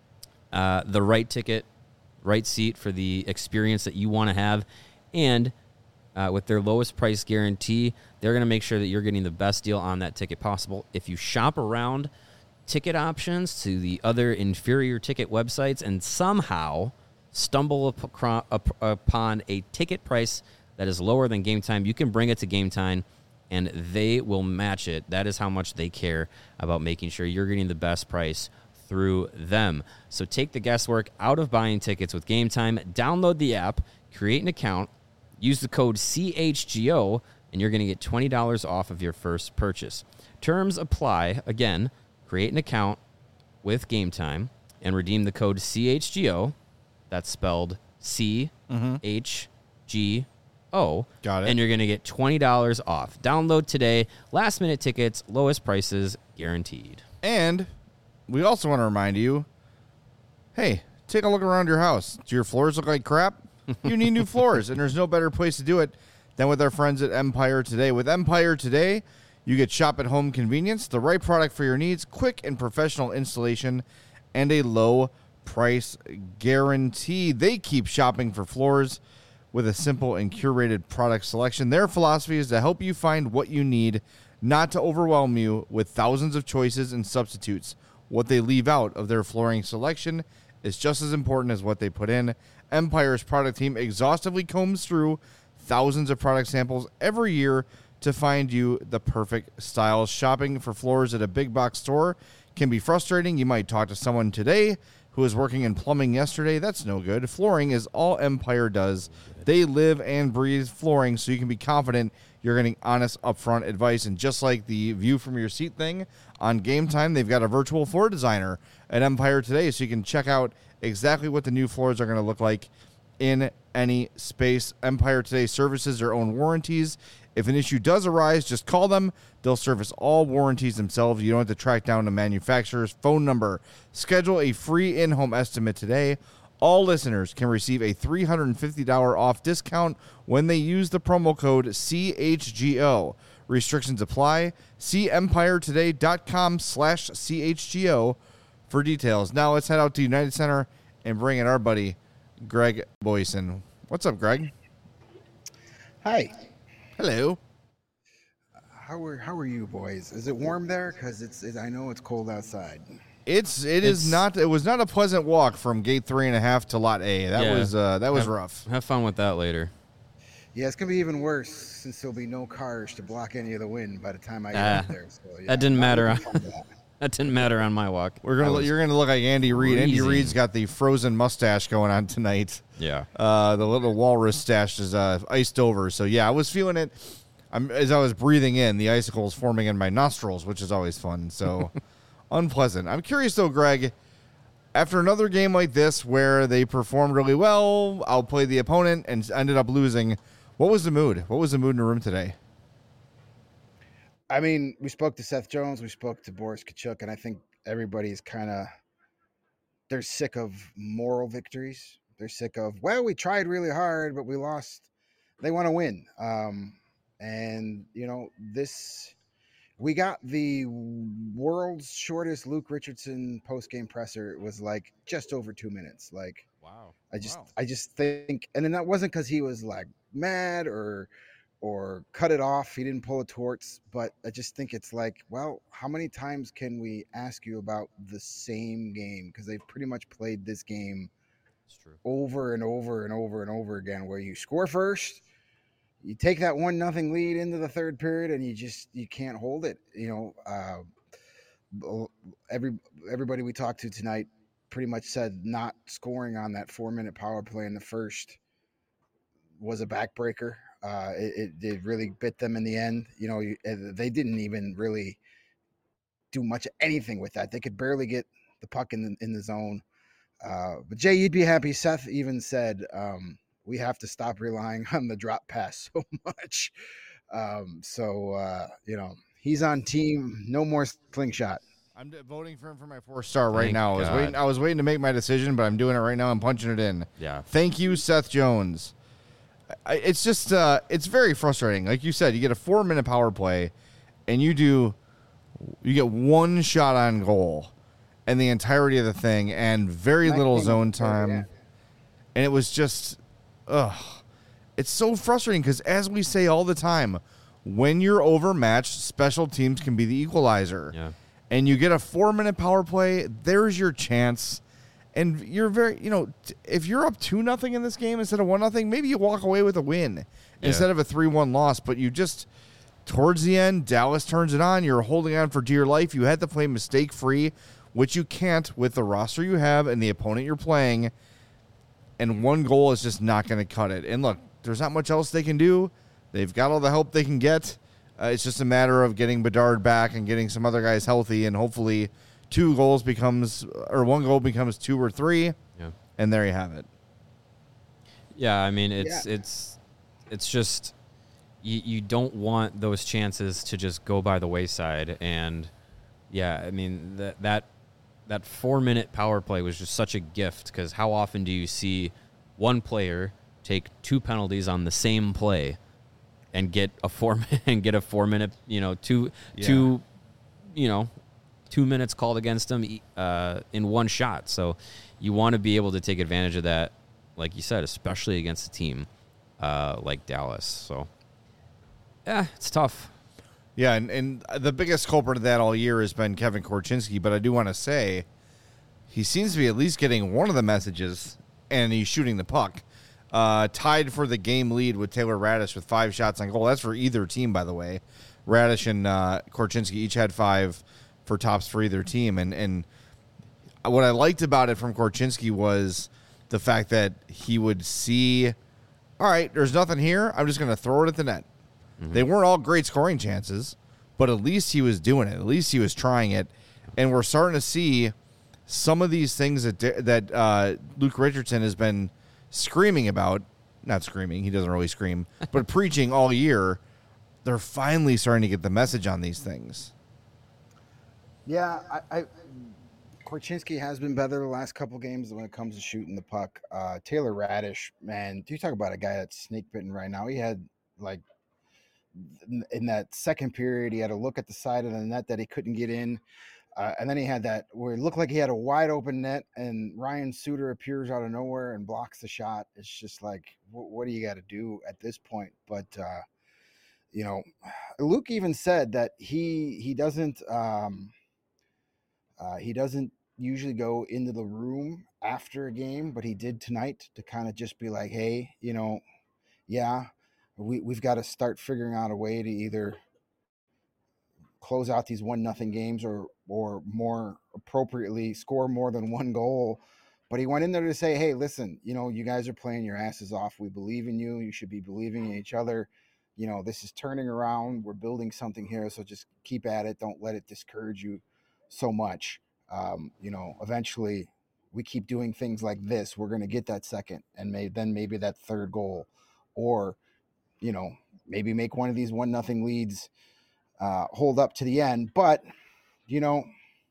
uh, the right ticket, right seat for the experience that you want to have. And uh, with their lowest price guarantee, they're going to make sure that you're getting the best deal on that ticket possible. If you shop around ticket options to the other inferior ticket websites and somehow stumble up upon a ticket price that is lower than Game Time, you can bring it to Game Time and they will match it. That is how much they care about making sure you're getting the best price through them. So take the guesswork out of buying tickets with Game Time. Download the app, create an account, use the code C H G O, and you're going to get twenty dollars off of your first purchase. Terms apply. Again, create an account with Game Time and redeem the code C H G O. That's spelled C H G O. Got it. And you're going to get twenty dollars off. Download today. Last minute tickets, lowest prices guaranteed. And we also want to remind you, hey, take a look around your house. Do your floors look like crap? You need new floors, and there's no better place to do it than with our friends at Empire Today. With Empire Today, you get shop-at-home convenience, the right product for your needs, quick and professional installation, and a low price guarantee. They keep shopping for floors with a simple and curated product selection. Their philosophy is to help you find what you need, not to overwhelm you with thousands of choices and substitutes. What they leave out of their flooring selection is just as important as what they put in. Empire's product team exhaustively combs through thousands of product samples every year to find you the perfect style. Shopping for floors at a big box store can be frustrating. You might talk to someone today who was working in plumbing yesterday. That's no good. Flooring is all Empire does. They live and breathe flooring, so you can be confident you're getting honest, upfront advice. And just like the view from your seat thing on Game Time, they've got a virtual floor designer at Empire Today, so you can check out exactly what the new floors are going to look like in any space. Empire Today services their own warranties. If an issue does arise, just call them. They'll service all warranties themselves. You don't have to track down the manufacturer's phone number. Schedule a free in-home estimate today. All listeners can receive a three hundred fifty dollars off discount when they use the promo code C H G O. Restrictions apply. See empiretoday.com slash CHGO for details. Now let's head out to United Center and bring in our buddy, Greg Boyson. What's up, Greg? Hi. Hello. How are how are you boys? Is it warm there? Because it's it, I know it's cold outside. It's it It's- is not it was not a pleasant walk from gate three and a half to lot A. That Yeah. was uh, that was have, rough. Have fun with that later. Yeah, it's gonna be even worse since there'll be no cars to block any of the wind by the time I get Ah, out there. So, yeah, that didn't not matter. looking forward to that. That didn't matter on my walk. We're gonna I was- you're gonna look like Andy Reid. Andy freezing. Reid's got the frozen mustache going on tonight. Yeah. Uh, the little walrus stash is uh, iced over. So yeah, I was feeling it. I'm, as I was breathing in, the icicles forming in my nostrils, which is always fun. So unpleasant. I'm curious though, Greg. After another game like this where they performed really well, outplayed the opponent, and ended up losing, what was the mood? What was the mood in the room today? I mean, we spoke to Seth Jones, we spoke to Boris Kachuk, and I think everybody's kind of they're sick of moral victories. They're sick of, well, we tried really hard, but we lost. They want to win. Um, and, you know, this, we got the world's shortest Luke Richardson post-game presser. It was like just over two minutes. Like, Wow. I just, Wow. I just think, and then that wasn't because he was like mad or, or cut it off. He didn't pull a torts, but I just think it's like, well, how many times can we ask you about the same game? Because they've pretty much played this game It's true. over and over and over and over again, where you score first, you take that one nothing lead into the third period, and you just you can't hold it. You know, uh, every everybody we talked to tonight pretty much said not scoring on that four minute power play in the first was a backbreaker. Uh, it, it it really bit them in the end. You know, you, they didn't even really do much of anything with that. They could barely get the puck in the, in the zone. Uh, but Jay, you'd be happy. Seth even said, um, we have to stop relying on the drop pass so much. Um, so, uh, you know, He's on team. No more slingshot. I'm d- voting for him for my four star right Thank now. I was God. waiting. I was waiting to make my decision, but I'm doing it right now. I'm punching it in. Yeah. Thank you, Seth Jones. I, it's just, uh, it's very frustrating. Like you said, you get a four minute power play, and you do, you get one shot on goal, and the entirety of the thing, and very little zone time, and it was just, ugh, it's so frustrating because as we say all the time, when you're overmatched, special teams can be the equalizer. Yeah. And you get a four-minute power play, there's your chance. And you're very, you know, t- if you're up two nothing in this game instead of one nothing, maybe you walk away with a win Yeah. instead of a three one loss. But you just, towards the end, Dallas turns it on. You're holding on for dear life. You had to play mistake-free, which you can't with the roster you have and the opponent you're playing. And one goal is just not going to cut it. And look, there's not much else they can do. They've got all the help they can get. Uh, it's just a matter of getting Bedard back and getting some other guys healthy, and hopefully two goals becomes, or one goal becomes two or three, Yeah. and there you have it. Yeah, I mean it's Yeah. it's it's just you you don't want those chances to just go by the wayside, and yeah, I mean that that that four minute power play was just such a gift because how often do you see one player take two penalties on the same play and get a four and get a four minute you know two Yeah. two you know two minutes called against them uh, in one shot. So you want to be able to take advantage of that, like you said, especially against a team uh, like Dallas. So yeah, it's tough. Yeah, and, and the biggest culprit of that all year has been Kevin Korchinski, but I do want to say he seems to be at least getting one of the messages, and he's shooting the puck. Uh, tied for the game lead with Taylor Radish with five shots on goal. That's for either team, by the way. Radish and uh, Korchinski each had five for tops for either team. And, and what I liked about it from Korchinski was the fact that he would see, all right, there's nothing here. I'm just going to throw it at the net. Mm-hmm. They weren't all great scoring chances, but at least he was doing it. At least he was trying it. And we're starting to see some of these things that that uh, Luke Richardson has been screaming about, not screaming, he doesn't really scream, but preaching all year. They're finally starting to get the message on these things. Yeah, I, I Korchinski has been better the last couple games when it comes to shooting the puck. Uh, Taylor Radish, man, do you talk about a guy that's snake bitten right now? He had like in, in that second period, he had a look at the side of the net that he couldn't get in. Uh, and then he had that where it looked like he had a wide open net, and Ryan Suter appears out of nowhere and blocks the shot. It's just like, what, what do you got to do at this point? But, uh, you know, Luke even said that he he doesn't um, uh, he doesn't usually go into the room after a game, but he did tonight to kind of just be like, hey, you know, yeah, we, we've got to start figuring out a way to either close out these one nothing games or or more appropriately score more than one goal. But he went in there to say, hey, listen, you know, you guys are playing your asses off. We believe in you. You should be believing in each other. You know, this is turning around. We're building something here. So just keep at it. Don't let it discourage you so much. Um, you know, eventually we keep doing things like this. We're going to get that second and may, then maybe that third goal, or, you know, maybe make one of these one nothing leads uh, hold up to the end. But, you know,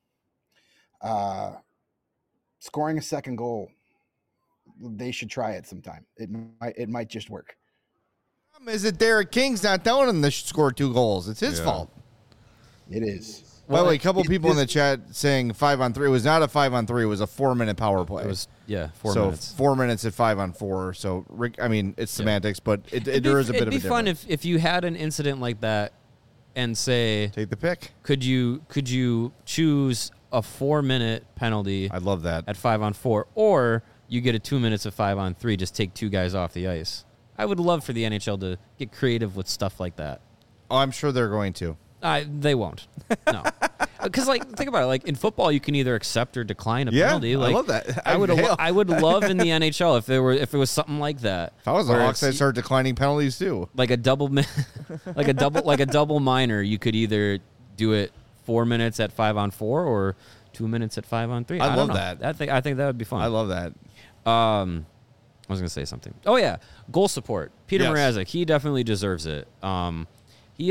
uh, scoring a second goal, they should try it sometime. It might, it might just work. Is it Derek King's not telling him to score two goals? It's his Yeah. fault. It is. By the way, a couple it- people in the this- chat saying five on three. It was not a five on three. It was a four minute power play. It was yeah, four so minutes. four minutes at five on four. So Rick, I mean, it's semantics, but it, it, It'd there be, is a bit it'd of a be fun difference. if, if you had an incident like that and say, Take the pick. could you could you choose a four minute penalty I love that. at five on four, or you get a two minutes of five on three, just take two guys off the ice. I would love for the N H L to get creative with stuff like that. Oh, I'm sure they're going to. Uh, they won't. No. Because, like, think about it. Like, in football, you can either accept or decline a Yeah, penalty. I Like, love that. I would, Hell. I would love in the N H L if there were, if it was something like that. If I was the where Hawks, I'd it's- start declining penalties too. like a double, mi- like a double, like a double minor. You could either do it four minutes at five on four or two minutes at five on three. I I, don't love know. that. I think I think that would be fun. I love that. Um, I was gonna say something. Oh yeah, goal support. Peter Yes. Mrazek, he definitely deserves it. Um, he has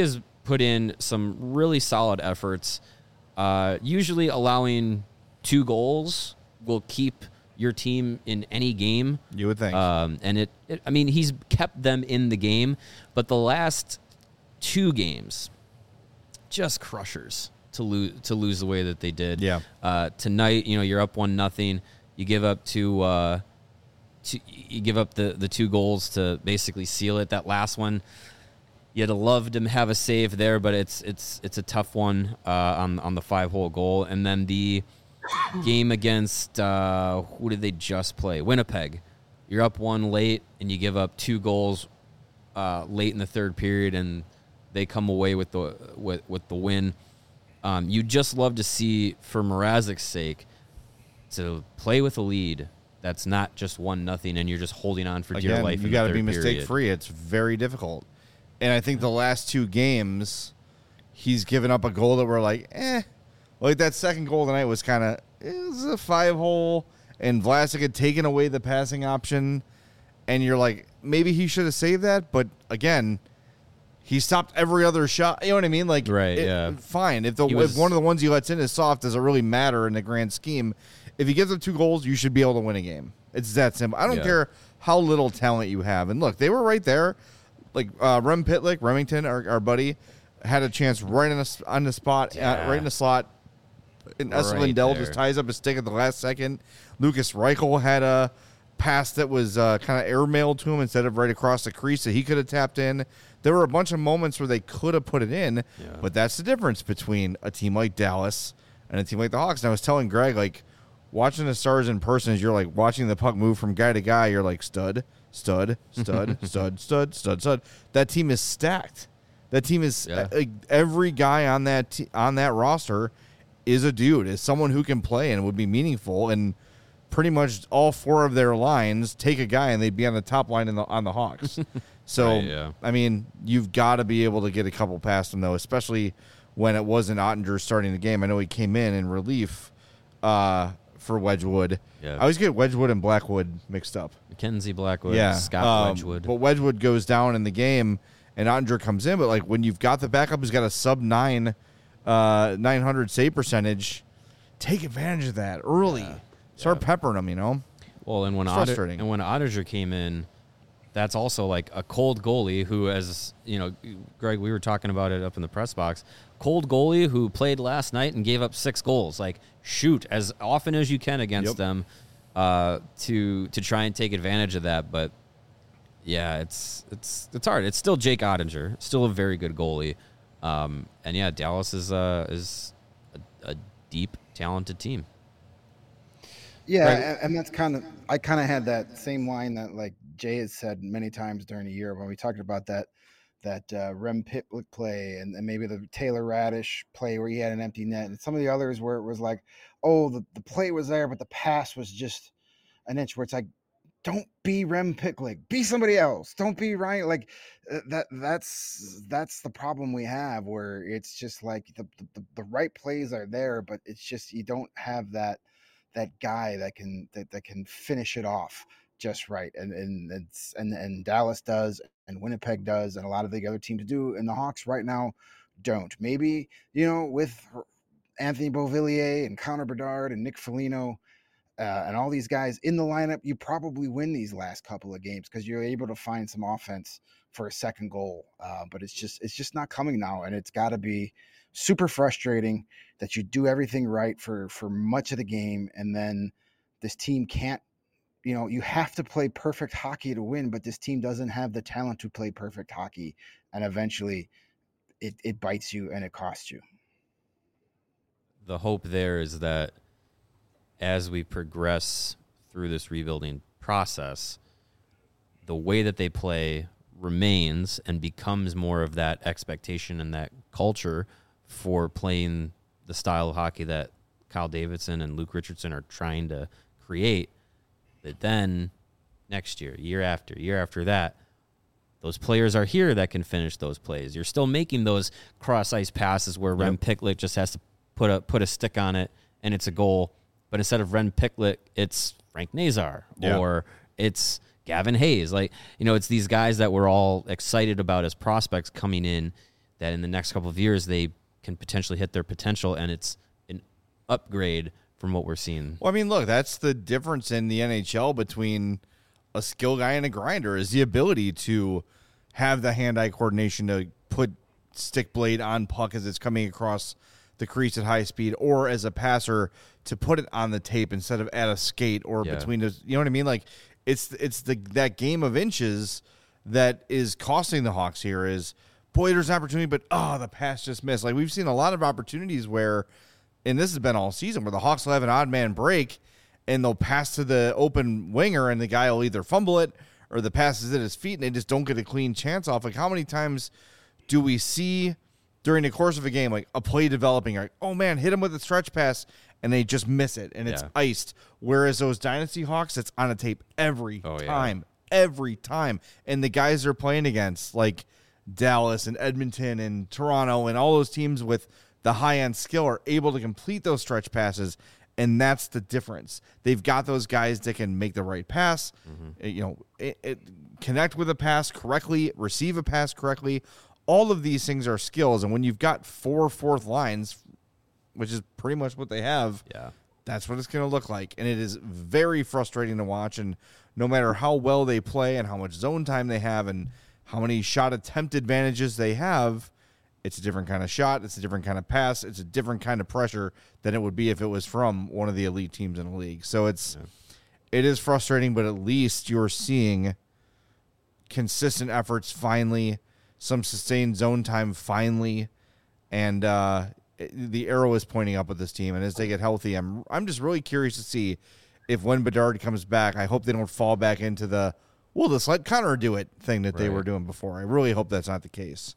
put in some really solid efforts. Uh, usually allowing two goals will keep your team in any game. You would think. Um, and it, it, I mean, he's kept them in the game, but the last two games, just crushers to lose to lose the way that they did. Yeah. Uh, tonight, you know, you're up one nothing. You give up two. Uh, two you give up the the two goals to basically seal it. That last one, you'd have loved to have a save there, but it's it's it's a tough one uh, on on the five hole goal. And then the game against uh, who did they just play? Winnipeg. You're up one late, and you give up two goals uh, late in the third period, and they come away with the with, with the win. Um, you just love to see, for Mrazek's sake, to play with a lead that's not just one nothing, and you're just holding on for dear Again, life. you got to be mistake free. It's very difficult, and I think the last two games, he's given up a goal that we're like, eh. Like that second goal tonight was kind of it was a five hole, and Vlasic had taken away the passing option, and you're like, maybe he should have saved that, but again. He stopped every other shot. You know what I mean? Like, right, it, yeah. Fine. If the was, if one of the ones he lets in is soft, does it really matter in the grand scheme? If he gives up two goals, you should be able to win a game. It's that simple. I don't yeah. care how little talent you have. And look, they were right there. Like uh, Rem Pitlick, Remington, our, our buddy, had a chance right on the on the spot, yeah. uh, right in the slot. And Right Esa Lindell there. just ties up his stick at the last second. Lucas Reichel had a pass that was uh, kind of airmailed to him instead of right across the crease that he could have tapped in. There were a bunch of moments where they could have put it in, Yeah. but that's the difference between a team like Dallas and a team like the Hawks. And I was telling Greg, like, watching the Stars in person is you're like watching the puck move from guy to guy. You're like, stud, stud, stud, stud, stud, stud, stud. That team is stacked. That team is Yeah. uh, every guy on that te- on that roster is a dude, is someone who can play and would be meaningful. And pretty much all four of their lines take a guy and they'd be on the top line in the, on the Hawks. So, Right, yeah. I mean, you've got to be able to get a couple past them, though, especially when it wasn't Ottinger starting the game. I know he came in in relief uh, for Wedgwood. Yeah. I always get Wedgwood and Blackwood mixed up. Mackenzie Blackwood, yeah. Scott um, Wedgwood. But Wedgwood goes down in the game and Ottinger comes in. But, like, when you've got the backup who's got a sub nine, uh, nine hundred save percentage, take advantage of that early. Yeah. Start Yeah. peppering them, you know? Well, and when It's Otter, frustrating. and when Ottinger came in, that's also like a cold goalie who, as you know, Greg, we were talking about it up in the press box. Cold goalie who played last night and gave up six goals. Like, shoot as often as you can against Yep. them uh, to to try and take advantage of that. But yeah, it's it's it's hard. It's still Jake Ottinger, still a very good goalie. Um, and yeah, Dallas is uh, is a, a deep, talented team. Yeah, Right. and, and that's kind of I kind of had that same line that like Jay has said many times during the year when we talked about that that uh, Rem Pitlick play and, and maybe the Taylor Radish play where he had an empty net and some of the others where it was like, oh, the, the play was there, but the pass was just an inch. Where it's like, don't be Rem Pitlick, be somebody else. Don't be Ryan. Like uh, that. That's that's the problem we have where it's just like the the, the right plays are there, but it's just you don't have that. that guy that can that, that can finish it off just right, and and it's and and Dallas does, and Winnipeg does, and a lot of the other teams do, and the Hawks right now don't. Maybe you know with Anthony Beauvillier and Connor Bedard and Nick Foligno uh, and all these guys in the lineup, you probably win these last couple of games because you're able to find some offense for a second goal. Uh, but it's just it's just not coming now, and it's got to be super frustrating that you do everything right for for much of the game and then this team can't, you know, you have to play perfect hockey to win, but this team doesn't have the talent to play perfect hockey, and eventually it, it bites you and it costs you. The hope there is that as we progress through this rebuilding process, the way that they play remains and becomes more of that expectation and that culture for playing the style of hockey that Kyle Davidson and Luke Richardson are trying to create. That then next year, year after, year after that, those players are here that can finish those plays. You're still making those cross-ice passes where Rem Pitlick just has to put a put a stick on it and it's a goal. But instead of Rem Pitlick, it's Frank Nazar Yeah. or it's Gavin Hayes. Like, you know, it's these guys that we're all excited about as prospects coming in that in the next couple of years they can potentially hit their potential, and it's an upgrade from what we're seeing. Well, I mean, look, that's the difference in the N H L between a skill guy and a grinder is the ability to have the hand-eye coordination to put stick blade on puck as it's coming across the crease at high speed, or as a passer to put it on the tape instead of at a skate or Yeah. between those. You know what I mean? Like it's it's the that game of inches that is costing the Hawks here. Is boy, there's an opportunity, but oh, the pass just missed. Like we've seen a lot of opportunities where, and this has been all season, where the Hawks will have an odd man break and they'll pass to the open winger and the guy will either fumble it or the pass is at his feet and they just don't get a clean chance off. Like how many times do we see during the course of a game, like a play developing, like, oh man, hit him with a stretch pass and they just miss it and it's Yeah. iced. Whereas those Dynasty Hawks, it's on a tape every Oh, yeah. time, every time. And the guys they're playing against, like Dallas and Edmonton and Toronto and all those teams with the high-end skill are able to complete those stretch passes, and that's the difference. They've got those guys that can make the right pass, Mm-hmm. you know, it, it, connect with a pass correctly, receive a pass correctly. All of these things are skills, and when you've got four fourth lines, which is pretty much what they have, Yeah. that's what it's going to look like, and it is very frustrating to watch, and no matter how well they play and how much zone time they have and how many shot attempt advantages they have, it's a different kind of shot. It's a different kind of pass. It's a different kind of pressure than it would be if it was from one of the elite teams in the league. So it's it is frustrating, but at least you're seeing consistent efforts finally, some sustained zone time finally, and uh, it- the arrow is pointing up with this team. And as they get healthy, I'm I'm just really curious to see if when Bedard comes back, I hope they don't fall back into the we'll just let Connor do it thing that they Right. were doing before. I really hope that's not the case.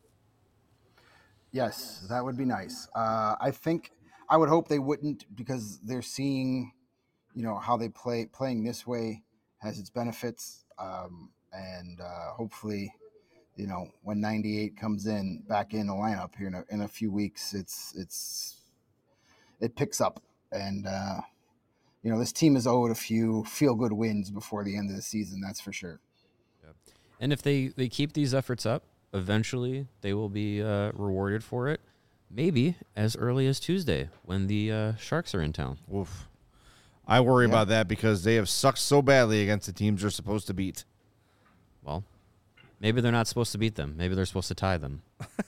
Yes, that would be nice. Uh, I think I would hope they wouldn't because they're seeing, you know, how they play. Playing this way has its benefits, um, and uh, hopefully, you know, when ninety-eight comes in back in the lineup here in a, in a few weeks, it's it's it picks up, and uh, you know, this team is owed a few feel good wins before the end of the season. That's for sure. And if they, they keep these efforts up, eventually they will be uh, rewarded for it. Maybe as early as Tuesday when the uh, Sharks are in town. Oof. I worry Yeah. about that because they have sucked so badly against the teams they're supposed to beat. Well, maybe they're not supposed to beat them. Maybe they're supposed to tie them.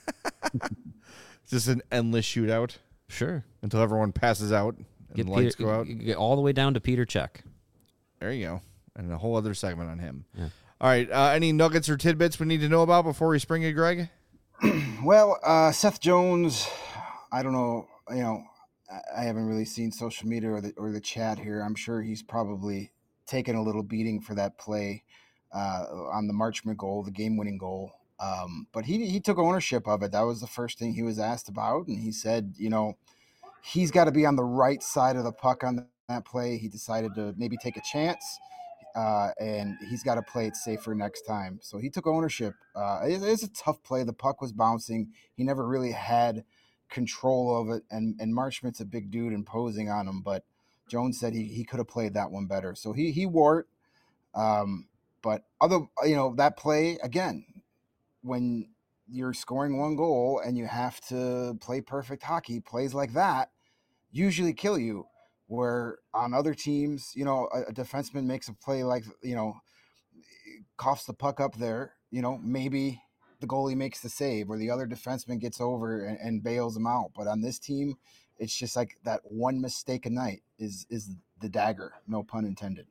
It's just an endless shootout Sure. until everyone passes out and Get the lights Peter- go out. get all the way down to Peter Cech. There you go. And a whole other segment on him. Yeah. All right. Uh, any nuggets or tidbits we need to know about before we spring it, Greg? Well, uh, Seth Jones, I don't know. You know, I- I haven't really seen social media or the or the chat here. I'm sure he's probably taken a little beating for that play uh, on the Marchment goal, the game-winning goal. Um, but he he took ownership of it. That was the first thing he was asked about, and he said, you know, he's got to be on the right side of the puck on that play. He decided to maybe take a chance. Uh, and he's got to play it safer next time. So he took ownership. Uh, it, it's a tough play. The puck was bouncing. He never really had control of it. And, and Marchment's a big dude imposing on him. But Jones said he, he could have played that one better. So he he wore it. Um, but other, you know, that play, again, when you're scoring one goal and you have to play perfect hockey, plays like that usually kill you. Where on other teams, you know, a, a defenseman makes a play like, you know, coughs the puck up there, you know, maybe the goalie makes the save or the other defenseman gets over and, and bails him out. But on this team, it's just like that one mistake a night is is the dagger, no pun intended.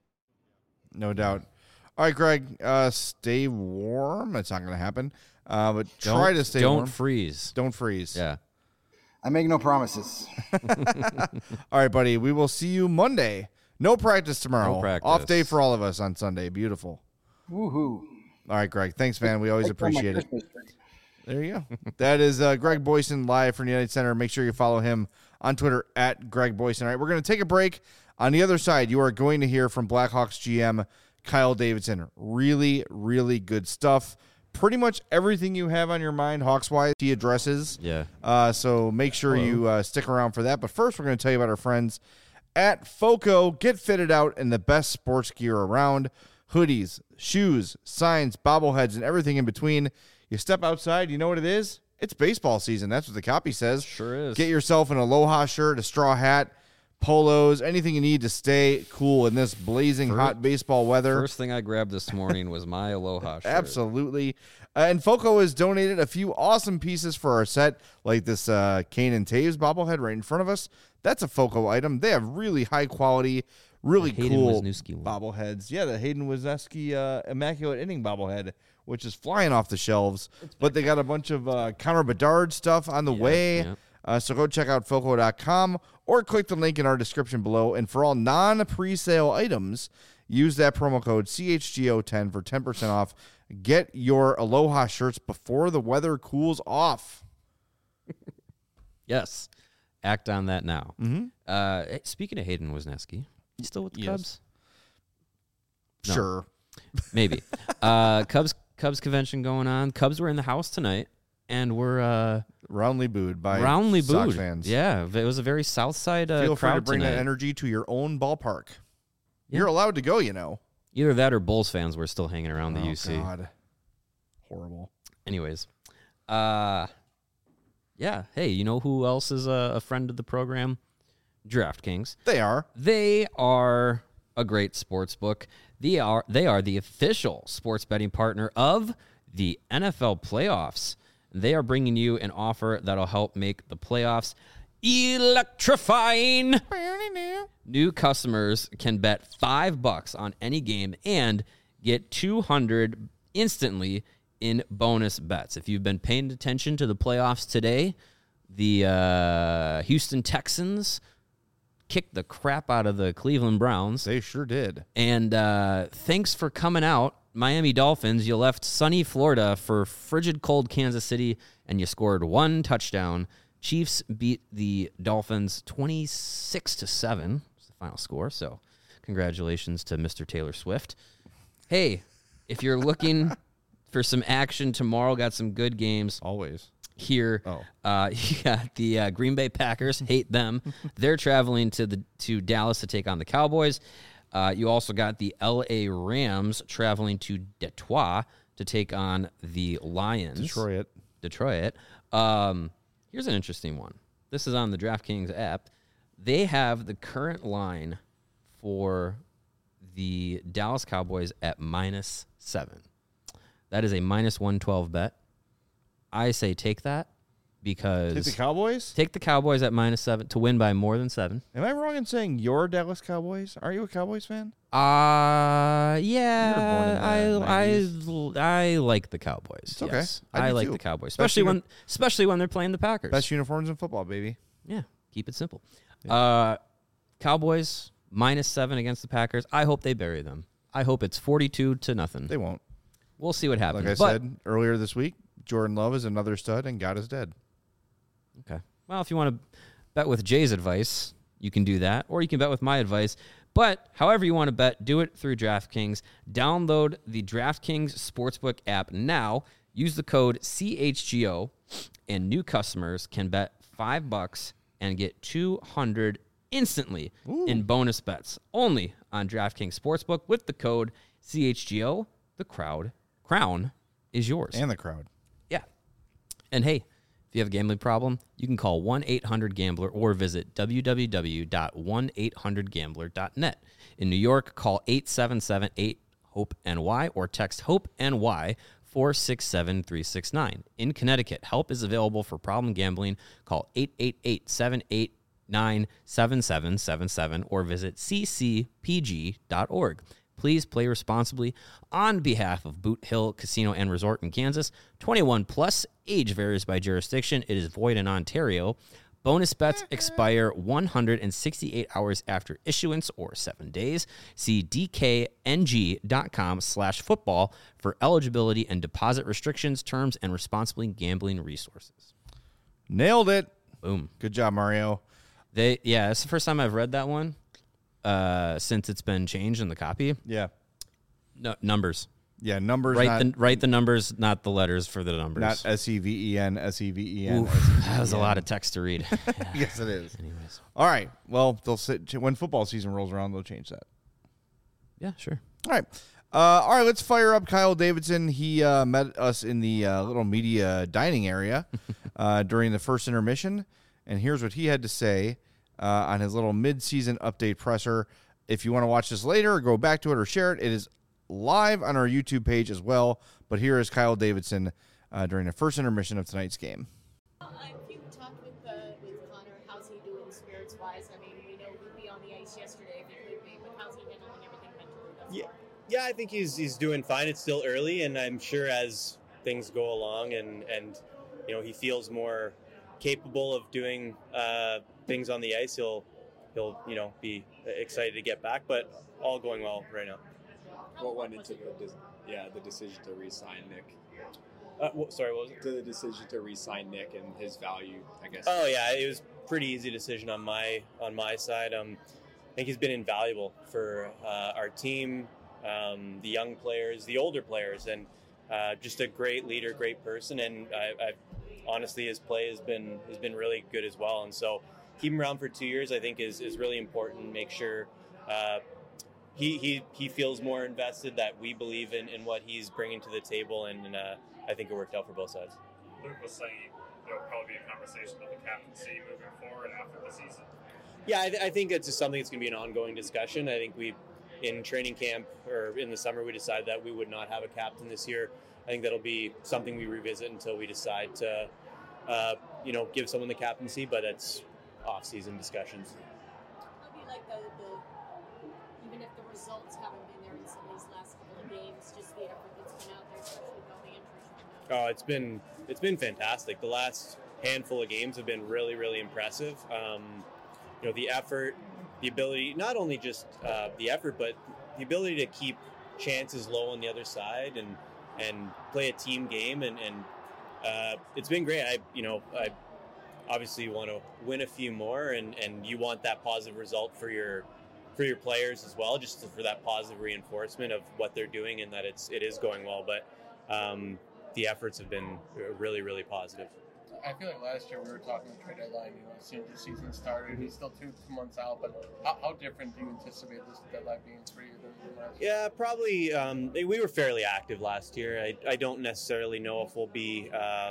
No doubt. All right, Greg, uh, stay warm. It's not going to happen. Uh, but try Don't- to stay Don't warm. freeze. Don't freeze. Yeah. I make no promises. All right, buddy. We will see you Monday. No practice tomorrow. No practice. Off day for all of us on Sunday. Beautiful. Woohoo. All right, Greg. Thanks, man. We always Like on my appreciate it. Christmas tree. There you go. That is uh, Greg Boyson live from the United Center. Make sure you follow him on Twitter at Greg Boyson. All right, we're going to take a break. On the other side, you are going to hear from Blackhawks G M Kyle Davidson. Really, really good stuff. Pretty much everything you have on your mind, Hawks-wise, he addresses. Yeah. Uh, so make sure you uh, stick around for that. But first, we're going to tell you about our friends at FOCO. Get fitted out in the best sports gear around. Hoodies, shoes, signs, bobbleheads, and everything in between. You step outside, you know what it is? It's baseball season. That's what the copy says. Sure is. Get yourself an Aloha shirt, a straw hat, polos, anything you need to stay cool in this blazing First- hot baseball weather. First thing I grabbed this morning was my Aloha shirt. Absolutely. Uh, and Foco has donated a few awesome pieces for our set, like this uh, Kane and Taves bobblehead right in front of us. That's a Foco item. They have really high quality, really The Hayden cool Wisniewski one. bobbleheads. Yeah, the Hayden Wisniewski uh, Immaculate Inning bobblehead, which is flying off the shelves. But they got a bunch of uh, Connor Bedard stuff on the Yeah, way. yeah. Uh, so go check out foco dot com or click the link in our description below. And for all non-presale items, use that promo code C H G O ten for ten percent off. Get your Aloha shirts before the weather cools off. Yes. Act on that now. Mm-hmm. Uh, hey, speaking of Hayden Wisniewski, you still with the Yes. Cubs? No. Sure. Maybe. uh, Cubs Cubs convention going on. Cubs were in the house tonight, and we're uh, Roundly booed by roundly Sox booed. fans. Yeah, it was a very South Side uh, Feel free crowd to bring tonight. that energy to your own ballpark. Yeah. You're allowed to go, you know. Either that or Bulls fans were still hanging around the Oh, U C. God. Horrible. Anyways, uh, yeah. Hey, you know who else is a, a friend of the program? DraftKings. They are. They are a great sports book. They are they are the official sports betting partner of the N F L playoffs. They are bringing you an offer that'll help make the playoffs electrifying. New customers can bet five bucks on any game and get two hundred instantly in bonus bets. If you've been paying attention to the playoffs today, the uh, Houston Texans kicked the crap out of the Cleveland Browns. They sure did. And uh, thanks for coming out, Miami Dolphins. You left sunny Florida for frigid cold Kansas City, and you scored one touchdown. Chiefs beat the Dolphins twenty-six to seven. Was the final score. So, congratulations to Mister Taylor Swift. Hey, if you're looking for some action tomorrow, got some good games Always. here. Oh. Uh, you got the uh, Green Bay Packers. Hate them. They're traveling to the to Dallas to take on the Cowboys. Uh, you also got the L A Rams traveling to Detroit to take on the Lions. Detroit. Detroit. Um, here's an interesting one. This is on the DraftKings app. They have the current line for the Dallas Cowboys at minus seven. That is a minus one twelve bet. I say take that because Take the Cowboys? take the Cowboys at minus seven to win by more than seven. Am I wrong in saying you're Dallas Cowboys? Are you a Cowboys fan? Uh yeah, You were born in the I nineties. I I like the Cowboys. It's okay. Yes. I I, do like too. the Cowboys, Best especially uni- when especially when they're playing the Packers. Best uniforms in football, baby. Yeah, keep it simple. Uh, Cowboys minus seven against the Packers. I hope they bury them. I hope it's forty-two to nothing. They won't. We'll see what happens. Like I But- said earlier this week, Jordan Love is another stud and God is dead. Okay. Well, if you want to bet with Jay's advice, you can do that, or you can bet with my advice. But however you want to bet, do it through DraftKings. Download the DraftKings Sportsbook app now. Use the code C H G O, and new customers can bet five bucks and get two hundred instantly in bonus bets. Only on DraftKings Sportsbook with the code C H G O. The crowd crown is yours. And the crowd. Yeah. And hey, if you have a gambling problem, you can call one eight hundred gambler or visit w w w dot one eight hundred gambler dot net. In New York, call eight seven seven eight hope N Y or text HOPE-NY four six seven three six nine. In Connecticut, help is available for problem gambling. Call eight eight eight seven eight nine seven seven seven seven or visit c c p g dot org. Please play responsibly on behalf of Boot Hill Casino and Resort in Kansas. twenty-one plus, age varies by jurisdiction. It is void in Ontario. Bonus bets expire one hundred sixty-eight hours after issuance or seven days. See d k n g dot com slash football for eligibility and deposit restrictions, terms, and responsibly gambling resources. Nailed it. Boom. Good job, Mario. They yeah, it's the first time I've read that one uh, since it's been changed in the copy. Yeah. No, numbers. Yeah, numbers, Write not, the write the numbers, not the letters for the numbers. not S E V E N, S E V E N. Oof, that was a lot of text to read. Yes, it is. Anyways, All right. Well, they'll sit, when football season rolls around, they'll change that. yeah, sure. All right. Uh, all right, let's fire up Kyle Davidson. He uh, met us in the uh, little media dining area uh, during the first intermission, and here's what he had to say uh, on his little mid-season update presser. If you want to watch this later or go back to it or share it, it is live on our YouTube page as well. But here is Kyle Davidson uh, during the first intermission of tonight's game. Uh, if you talked with uh, with Connor, how's he doing spirits-wise? I mean, we know he'd be on the ice yesterday if he could be, but how's he handling everything mentally thus Yeah. far? Yeah, I think he's he's doing fine. It's still early, and I'm sure as things go along, and and you know he feels more capable of doing uh, things on the ice, he'll he'll you know be excited to get back. But all going well right now. What went into the de- yeah the decision to re-sign Nick? Uh, wh- sorry, what was it? To the decision to re-sign Nick and his value, I guess. Oh yeah, it was a pretty easy decision on my on my side. Um, I think he's been invaluable for uh, our team, um, the young players, the older players, and uh, just a great leader, great person. And I, I honestly, his play has been has been really good as well. And so, keep him around for two years, I think, is is really important. Make sure uh, he he he feels more invested. That we believe in in what he's bringing to the table, and uh, I think it worked out for both sides. Luke was saying there will probably be a conversation about the captaincy moving forward after the season. Yeah, I, th- I think it's just something that's going to be an ongoing discussion. I think we, in training camp or in the summer, we decided that we would not have a captain this year. I think that'll be something we revisit until we decide to, uh, you know, give someone the captaincy. But it's off-season discussions. How do you like the, the even if the results haven't been there in some of these last couple of games, just the effort that's been out there, especially with all the injuries right now? Oh, it's been it's been fantastic. The last handful of games have been really, really impressive. Um, you know, the effort, the ability, not only just uh, the effort, but the ability to keep chances low on the other side and and play a team game. And, and uh, it's been great. I, you know, I obviously want to win a few more, and, and you want that positive result for your for your players as well, just for that positive reinforcement of what they're doing and that it's it is going well. But um, the efforts have been really, really positive. I feel like last year we were talking the trade deadline, you know, as soon as the season started, he's still two, two months out, but how, how different do you anticipate this deadline being for you than last year? Yeah, probably. Um, we were fairly active last year. I, I don't necessarily know if we'll be uh,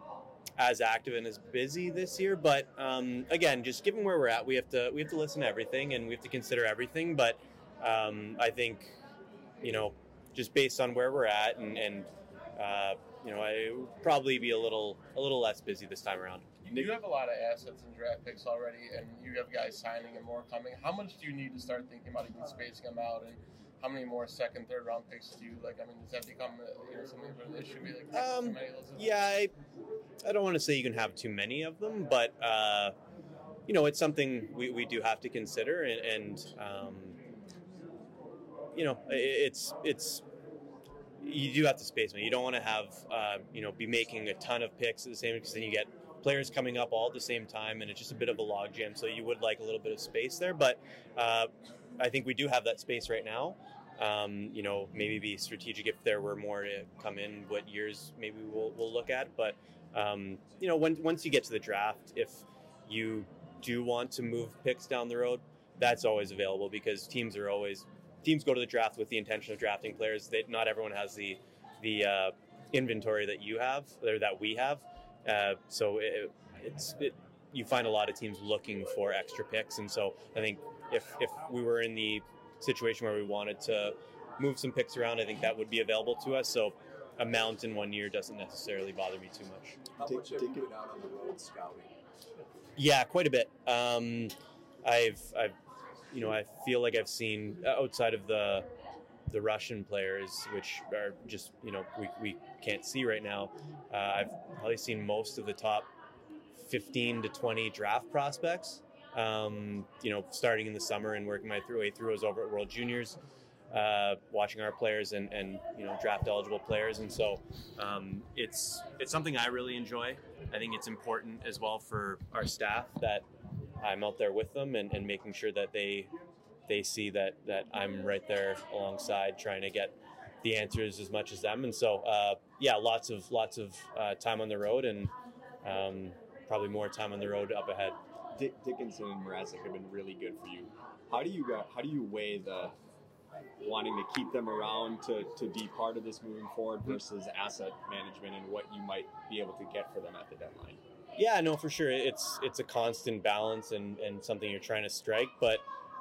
as active and as busy this year, but um, again, just given where we're at, we have to we have to listen to everything and we have to consider everything. But um, I think, you know, just based on where we're at and, and uh, you know, I would probably be a little a little less busy this time around. You have a lot of assets and draft picks already, and you have guys signing and more coming. How much do you need to start thinking about even spacing them out, and how many more second, third round picks do you like? I mean, does that become a, you know, something of an issue? Be like Um, too many of those? yeah, I, I don't want to say you can have too many of them, but uh, you know, it's something we, we do have to consider, and, and um, you know, it, it's it's. You do have to space them. You don't want to have, uh, you know, be making a ton of picks at the same, because then you get players coming up all at the same time, and it's just a bit of a logjam. So you would like a little bit of space there, but uh, I think we do have that space right now. Um, you know, maybe be strategic if there were more to come in. What years maybe we'll we'll look at, but um, you know, when, once you get to the draft, if you do want to move picks down the road, that's always available, because teams are always. Teams go to the draft with the intention of drafting players. That not everyone has the the uh, inventory that you have or that we have. Uh, so it, it's it, you find a lot of teams looking for extra picks, and so I think if if we were in the situation where we wanted to move some picks around, I think that would be available to us. So amount in one year doesn't necessarily bother me too much. How much have you been out on the road scouting? Yeah, quite a bit. Um, I've I've. You know, I feel like I've seen outside of the the Russian players, which are just, you know, we, we can't see right now. Uh, I've probably seen most of the top fifteen to twenty draft prospects, um, you know, starting in the summer and working my through way through. I was over at World Juniors, uh, watching our players and, and, you know, draft eligible players. And so um, it's it's something I really enjoy. I think it's important as well for our staff that I'm out there with them and, and making sure that they they see that that I'm right there alongside, trying to get the answers as much as them. And so, uh, yeah, lots of lots of uh, time on the road, and um, probably more time on the road up ahead. Dick Dickinson and Mrazek have been really good for you. How do you go, how do you weigh the wanting to keep them around to, to be part of this moving forward versus asset management and what you might be able to get for them at the deadline? Yeah, no, for sure. It's it's a constant balance and, and something you're trying to strike. But,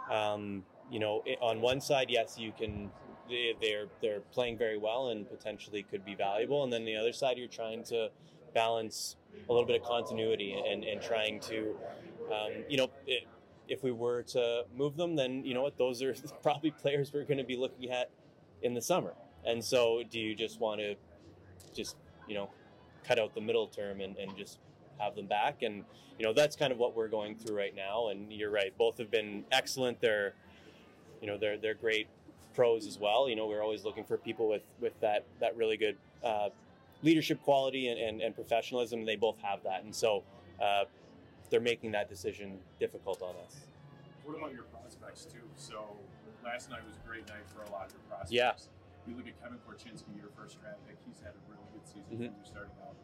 um, you know, it, on one side, yes, you can, they, they're, they're playing very well and potentially could be valuable. And then the other side, you're trying to balance a little bit of continuity and, and trying to, um, you know, it, if we were to move them, then, you know what, those are probably players we're going to be looking at in the summer. And so do you just want to just, you know, cut out the middle term and, and just have them back? And, you know, that's kind of what we're going through right now. And you're right, both have been excellent. They're, you know, they're, they're great pros as well. You know, we're always looking for people with, with that, that really good uh, leadership quality and, and, and professionalism. They both have that. And so uh, they're making that decision difficult on us. What about your prospects too? So last night was a great night for a lot of your prospects. Yeah. You look at Kevin Korchinski, your first draft pick. He's had a really good season Mm-hmm. when you're starting out.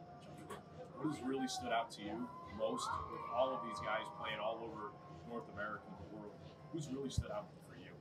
What has really stood out to you most with all of these guys playing all over North America and the world? Who's really stood out for you?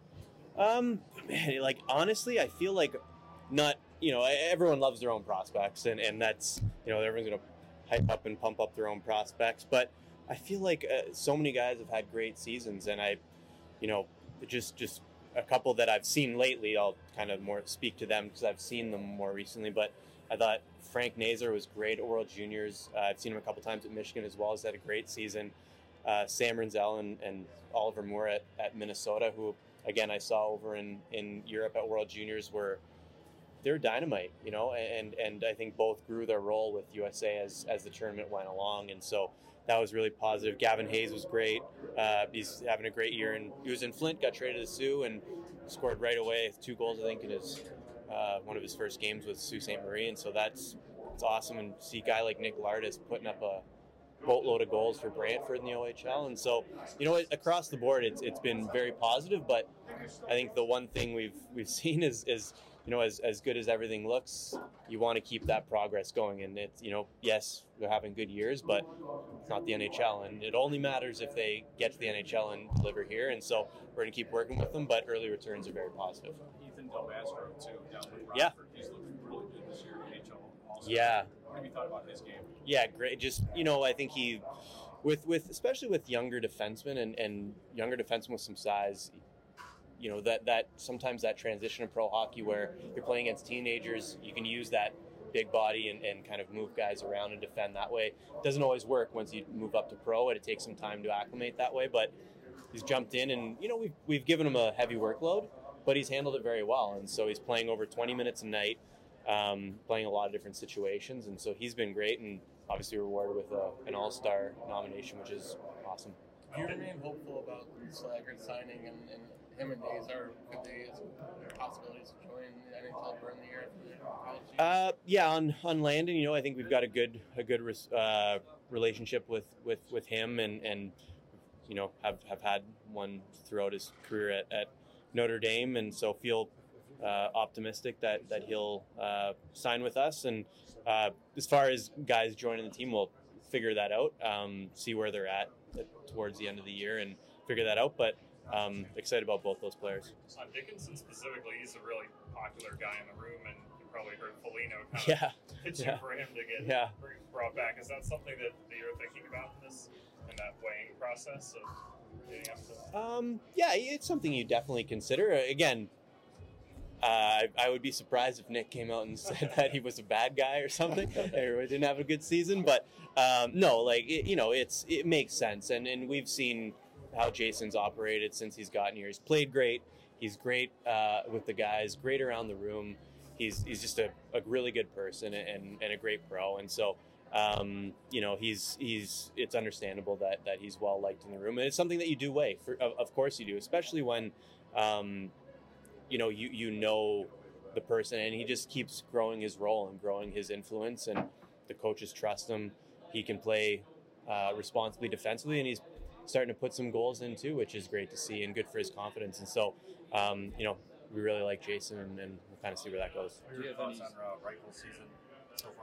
Um, man, like honestly, I feel like not, you know, everyone loves their own prospects, and, and that's, you know, everyone's going to hype up and pump up their own prospects. But I feel like uh, so many guys have had great seasons, and I, you know, just just a couple that I've seen lately, I'll kind of more speak to them because I've seen them more recently. But I thought Frank Nazar was great at World Juniors. Uh, I've seen him a couple times at Michigan as well. He's had a great season. Uh, Sam Renzel and, and Oliver Moore at, at Minnesota, who, again, I saw over in, in Europe at World Juniors, were they're dynamite, you know, and, and I think both grew their role with U S A as, as the tournament went along. And so that was really positive. Gavin Hayes was great. Uh, he's having a great year. And he was in Flint, got traded to Sioux, and scored right away. Two goals, I think, in his uh, one of his first games with Sault Ste. Marie. And so that's, that's awesome. And see a guy like Nick Lardis putting up a boatload of goals for Brantford in the O H L. And so, you know, across the board, it's it's been very positive. But I think the one thing we've we've seen is, is you know, as, as good as everything looks, you want to keep that progress going. And it's, you know, yes, they're having good years, but it's not the N H L. And it only matters if they get to the N H L and deliver here. And so we're going to keep working with them, but early returns are very positive. Ethan Del Mastro, too, down with Rockford. Yeah. He's looking really good this year in the N H L also. Yeah. What have you thought about his game? Yeah, great. Just, you know, I think he, with, with especially with younger defensemen and, and younger defensemen with some size, you know, that, that sometimes that transition in pro hockey where you're playing against teenagers, you can use that big body and, and kind of move guys around and defend that way. It doesn't always work once you move up to pro, and it takes some time to acclimate that way, but he's jumped in and, you know, we've, we've given him a heavy workload, but he's handled it very well. And so he's playing over twenty minutes a night, um, playing a lot of different situations. And so he's been great and obviously rewarded with a, an all-star nomination, which is awesome. Do you remain hopeful about Slaggert signing and, and him and Nazar? Could they as possibilities to join the N H L during the year after their college season? Uh, yeah, on, on Landon, you know, I think we've got a good a good uh, relationship with, with, with him, and, and you know have, have had one throughout his career at, at Notre Dame, and so feel uh, optimistic that that he'll uh, sign with us. And uh, as far as guys joining the team, we'll figure that out, um, see where they're at towards the end of the year, and figure that out. But um, excited about both those players. On Dickinson specifically, he's a really popular guy in the room, and you probably heard Foligno kind Yeah. of pitching Yeah. for him to get Yeah. brought back. Is that something that, that you're thinking about in this in that weighing process of getting up to? Um, yeah, it's something you definitely consider. Again, uh, I, I would be surprised if Nick came out and said that he was a bad guy or something, or didn't have a good season. But um, no, like it, you know, it's it makes sense, and and we've seen how Jason's operated since he's gotten here. He's played great. He's great uh, with the guys, great around the room. He's he's just a, a really good person and, and a great pro. And so, um, you know, he's he's it's understandable that that he's well liked in the room. And it's something that you do weigh. For, of, of course you do, especially when, um, you know, you, you know the person, and he just keeps growing his role and growing his influence, and the coaches trust him. He can play uh, responsibly defensively, and he's starting to put some goals in too, which is great to see and good for his confidence. And so, um, you know, we really like Jason, and, and we'll kind of see where that goes. What are your thoughts on uh, Reichel's season so far?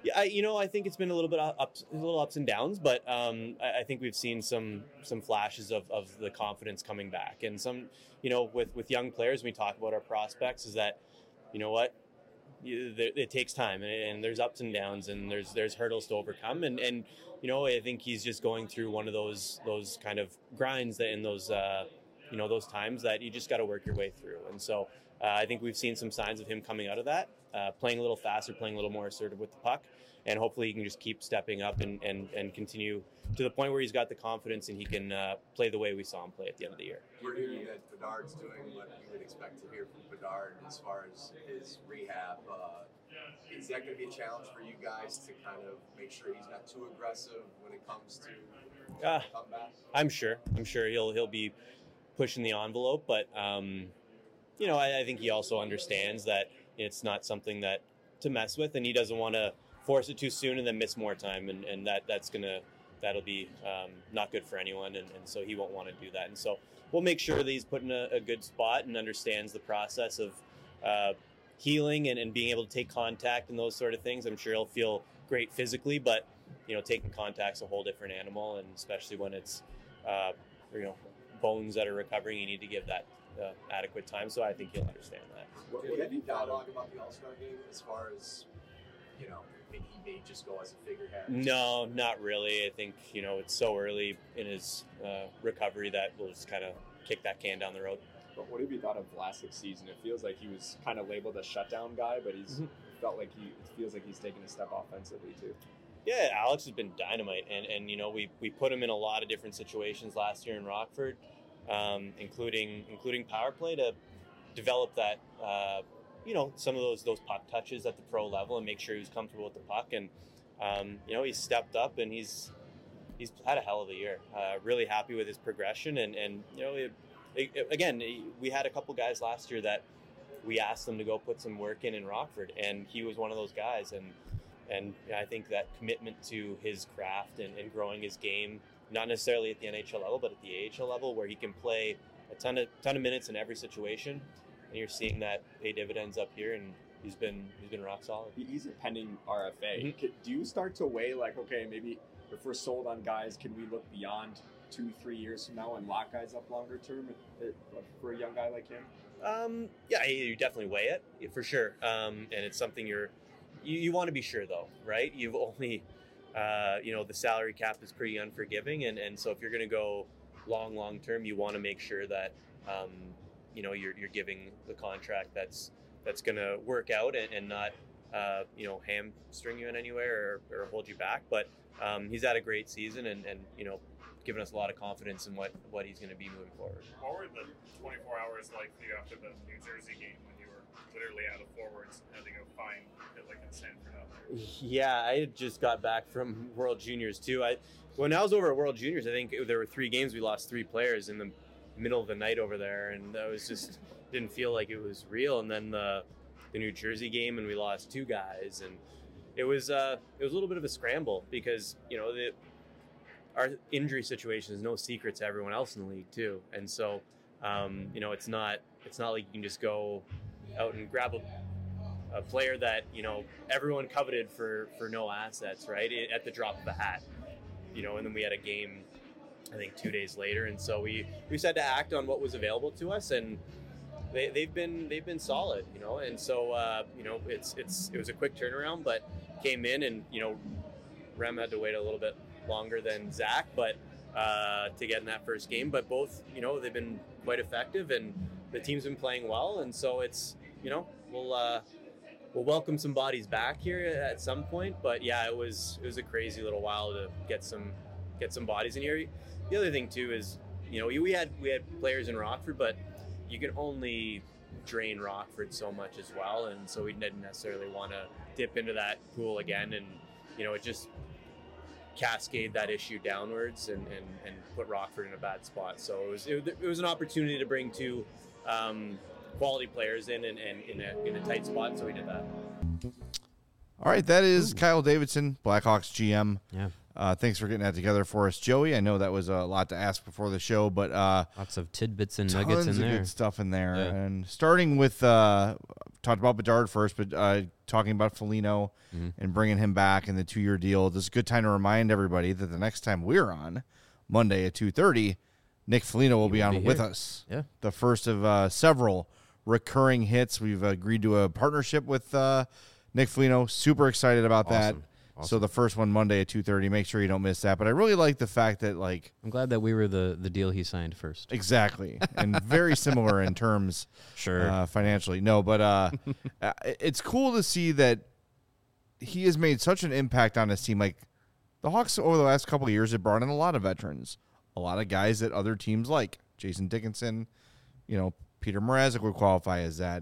Yeah, I, you know, I think it's been a little bit ups, a little ups and downs, but um, I, I think we've seen some some flashes of, of the confidence coming back, and some, you know, with, with young players, when we talk about our prospects, is that, you know what, you, there, it takes time, and, and there's ups and downs, and there's there's hurdles to overcome, and, and you know, I think he's just going through one of those those kind of grinds that in those uh, you know those times that you just got to work your way through, and so uh, I think we've seen some signs of him coming out of that. Uh, playing a little faster, playing a little more assertive with the puck, and hopefully he can just keep stepping up and, and, and continue to the point where he's got the confidence and he can uh, play the way we saw him play at the end of the year. We're hearing that Bedard's doing what you would expect to hear from Bedard as far as his rehab. Uh, is that going to be a challenge for you guys to kind of make sure he's not too aggressive when it comes to uh, comeback? I'm sure. I'm sure he'll he'll be pushing the envelope, but um, you know, I, I think he also understands that it's not something that to mess with, and he doesn't want to force it too soon and then miss more time, and, and that that's gonna that'll be um, not good for anyone, and, and so he won't want to do that. And so we'll make sure that he's put in a, a good spot and understands the process of uh, healing and, and being able to take contact and those sort of things. I'm sure he'll feel great physically, but you know, taking contact's a whole different animal, and especially when it's uh, you know bones that are recovering, you need to give that uh, adequate time. So I think he'll understand that. What, what have you dialogue about the All-Star game as far as, you know, maybe he may just go as a figurehead? No, not really. I think, you know, it's so early in his uh, recovery that we'll just kind of kick that can down the road. But what have you thought of Vlasic's season? It feels like he was kind of labeled a shutdown guy, but he's mm-hmm. felt like he, it feels like he's taken a step offensively too. Yeah, Alex has been dynamite, and, and you know, we, we put him in a lot of different situations last year in Rockford, um, including including power play to develop that, uh, you know, some of those those puck touches at the pro level and make sure he was comfortable with the puck. And, um, you know, he's stepped up and he's he's had a hell of a year. Uh, really happy with his progression. And, and you know, it, it, again, we had a couple guys last year that we asked them to go put some work in in Rockford, and he was one of those guys. And, and I think that commitment to his craft and, and growing his game, not necessarily at the N H L level, but at the A H L level, where he can play a ton of ton of minutes in every situation. And you're seeing that pay dividends up here, and he's been he's been rock solid. He's a pending R F A. Mm-hmm. Do you start to weigh like, okay, maybe if we're sold on guys, can we look beyond two, three years from now and lock guys up longer term for a young guy like him? Um, yeah, you definitely weigh it for sure, um, and it's something you're you, you want to be sure though, right? You've only uh, you know the salary cap is pretty unforgiving, and, and so if you're going to go long long term, you want to make sure that. Um, you know, you're you're giving the contract that's that's going to work out and, and not, uh, you know, hamstring you in anywhere or, or hold you back. But um, he's had a great season and, and, you know, given us a lot of confidence in what, what he's going to be moving forward. What were the twenty-four hours like for you after the New Jersey game when you were literally out of forwards and had to go find it like in Sanford out there? Yeah, I had just got back from World Juniors too. I When I was over at World Juniors, I think there were three games we lost three players in the middle of the night over there, and that was just didn't feel like it was real. And then the the New Jersey game, and we lost two guys, and it was uh it was a little bit of a scramble because you know the our injury situation is no secret to everyone else in the league too, and so um you know it's not it's not like you can just go out and grab a, a player that you know everyone coveted for for no assets, right, at the drop of a hat, you know. And then we had a game I think two days later, and so we we just had to act on what was available to us, and they, they've been they've been solid, you know. And so uh, you know it's it's it was a quick turnaround, but came in, and you know Rem had to wait a little bit longer than Zach, but uh, to get in that first game. But both, you know, they've been quite effective, and the team's been playing well, and so it's you know we'll uh, we'll welcome some bodies back here at some point. But yeah, it was it was a crazy little while to get some get some bodies in here. The other thing too is, you know, we had we had players in Rockford, but you can only drain Rockford so much as well, and so we didn't necessarily want to dip into that pool again, and you know, it just cascade that issue downwards and, and, and put Rockford in a bad spot. So it was it, it was an opportunity to bring two um, quality players in and, and in a in a tight spot, so we did that. All right, that is Ooh. Kyle Davidson, Blackhawks G M. Yeah. Uh, thanks for getting that together for us, Joey. I know that was a lot to ask before the show, but uh, lots of tidbits and tons nuggets in of there. good stuff in there. Yeah. And starting with uh, talked about Bedard first, but uh, talking about Foligno mm-hmm. and bringing him back in the two-year deal. This is a good time to remind everybody that the next time we're on Monday at two thirty, Nick Foligno will He be will on be with here. us. Yeah, the first of uh, several recurring hits. We've agreed to a partnership with uh, Nick Foligno. Super excited about Awesome. that. Awesome. So the first one Monday at two thirty. Make sure you don't miss that. But I really like the fact that, like, I'm glad that we were the, the deal he signed first. Exactly, and very similar in terms, sure, uh, financially. No, but uh, uh, it's cool to see that he has made such an impact on his team. Like the Hawks over the last couple of years have brought in a lot of veterans, a lot of guys that other teams like. Jason Dickinson, you know, Peter Mrazek would qualify as that.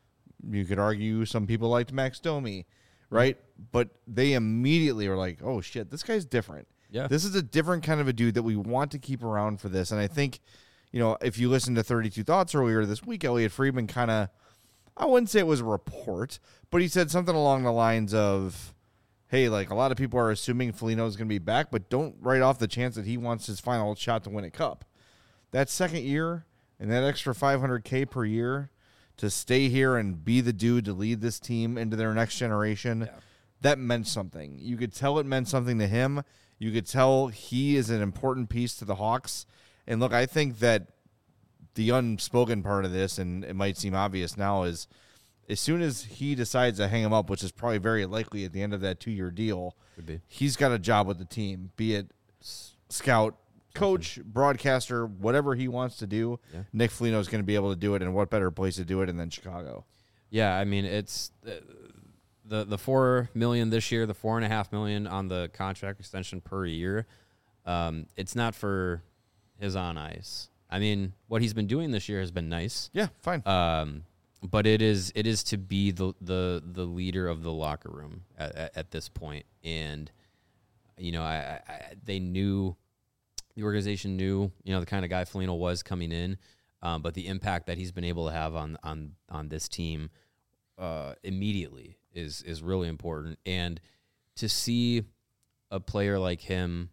You could argue some people liked Max Domi, right? But they immediately were like, oh, shit, this guy's different. Yeah. This is a different kind of a dude that we want to keep around for this. And I think, you know, if you listen to thirty-two Thoughts earlier this week, Elliot Friedman kind of, I wouldn't say it was a report, but he said something along the lines of, hey, like a lot of people are assuming Foligno is going to be back, but don't write off the chance that he wants his final shot to win a cup. That second year and that extra five hundred K per year to stay here and be the dude to lead this team into their next generation, yeah. that meant something. You could tell it meant something to him. You could tell he is an important piece to the Hawks. And look, I think that the unspoken part of this, and it might seem obvious now, is as soon as he decides to hang him up, which is probably very likely at the end of that two-year deal, Could be. he's got a job with the team, be it scout, coach, broadcaster, whatever he wants to do. Yeah. Nick Foligno is going to be able to do it, and what better place to do it than Chicago? Yeah, I mean it's uh, the the four million this year, the four and a half million on the contract extension per year. Um, it's not for his on ice. I mean, what he's been doing this year has been nice. Yeah, fine. Um, but it is it is to be the the the leader of the locker room at, at, at this point, and you know, I, I they knew. The organization knew, you know, the kind of guy Foligno was coming in, um, but the impact that he's been able to have on on on this team uh, immediately is is really important. And to see a player like him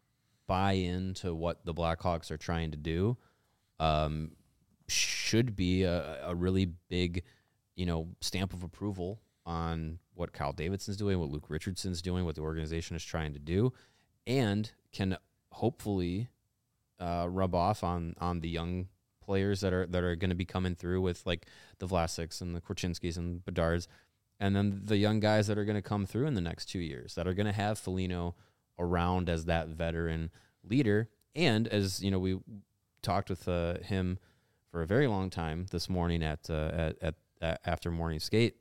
buy into what the Blackhawks are trying to do um, should be a, a really big, you know, stamp of approval on what Kyle Davidson's doing, what Luke Richardson's doing, what the organization is trying to do, and can hopefully uh, rub off on on the young players that are that are going to be coming through with like the Vlasics and the Korchinskis and Bedards, and then the young guys that are going to come through in the next two years that are going to have Foligno around as that veteran leader. And as you know, we talked with uh, him for a very long time this morning at, uh, at at at after morning skate.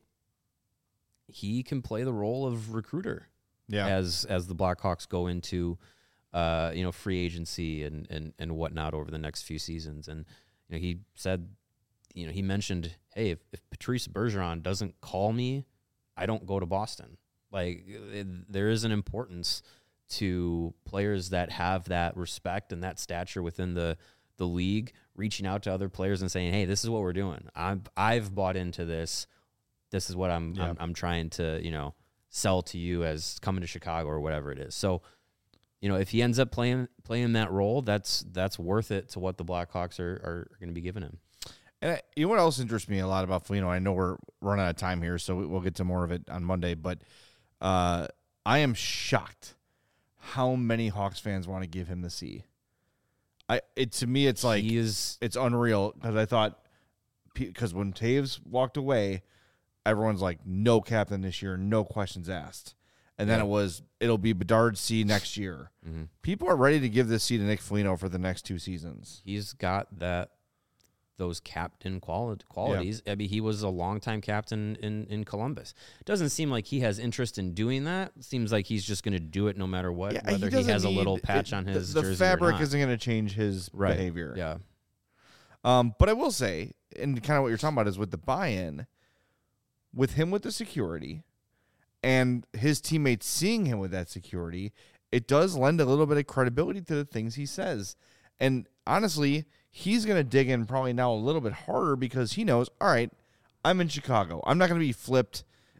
He can play the role of recruiter, yeah. as as the Blackhawks go into uh, you know free agency and, and and whatnot over the next few seasons. And you know, he said, you know, he mentioned, hey, if, if Patrice Bergeron doesn't call me, I don't go to Boston. Like it, there is an importance to players that have that respect and that stature within the the league, reaching out to other players and saying, hey, this is what we're doing. I've I've bought into this. This is what I'm, yeah. I'm I'm trying to, you know, sell to you as coming to Chicago or whatever it is. So, you know, if he ends up playing playing that role, that's that's worth it to what the Blackhawks are, are going to be giving him. And I, you know what else interests me a lot about Foligno? I know we're running out of time here, so we'll get to more of it on Monday. But uh, I am shocked how many Hawks fans want to give him the C. I it to me, it's like he is, it's unreal because I thought because when Taves walked away, everyone's like, no captain this year, no questions asked. And then yeah. it was, it'll be Bedard C next year. Mm-hmm. People are ready to give this C to Nick Foligno for the next two seasons. He's got that, those captain quali- qualities. Yeah. I mean, he was a longtime captain in, in Columbus. It doesn't seem like he has interest in doing that. It seems like he's just going to do it no matter what, yeah, whether he, he has need, a little patch it, on his the, the jersey fabric or not. isn't going to change his right. behavior. Yeah. Um, but I will say, and kind of what you're talking about is with the buy-in, with him with the security and his teammates seeing him with that security, it does lend a little bit of credibility to the things he says. And honestly, he's going to dig in probably now a little bit harder because he knows, all right, I'm in Chicago. I'm not going to be flipped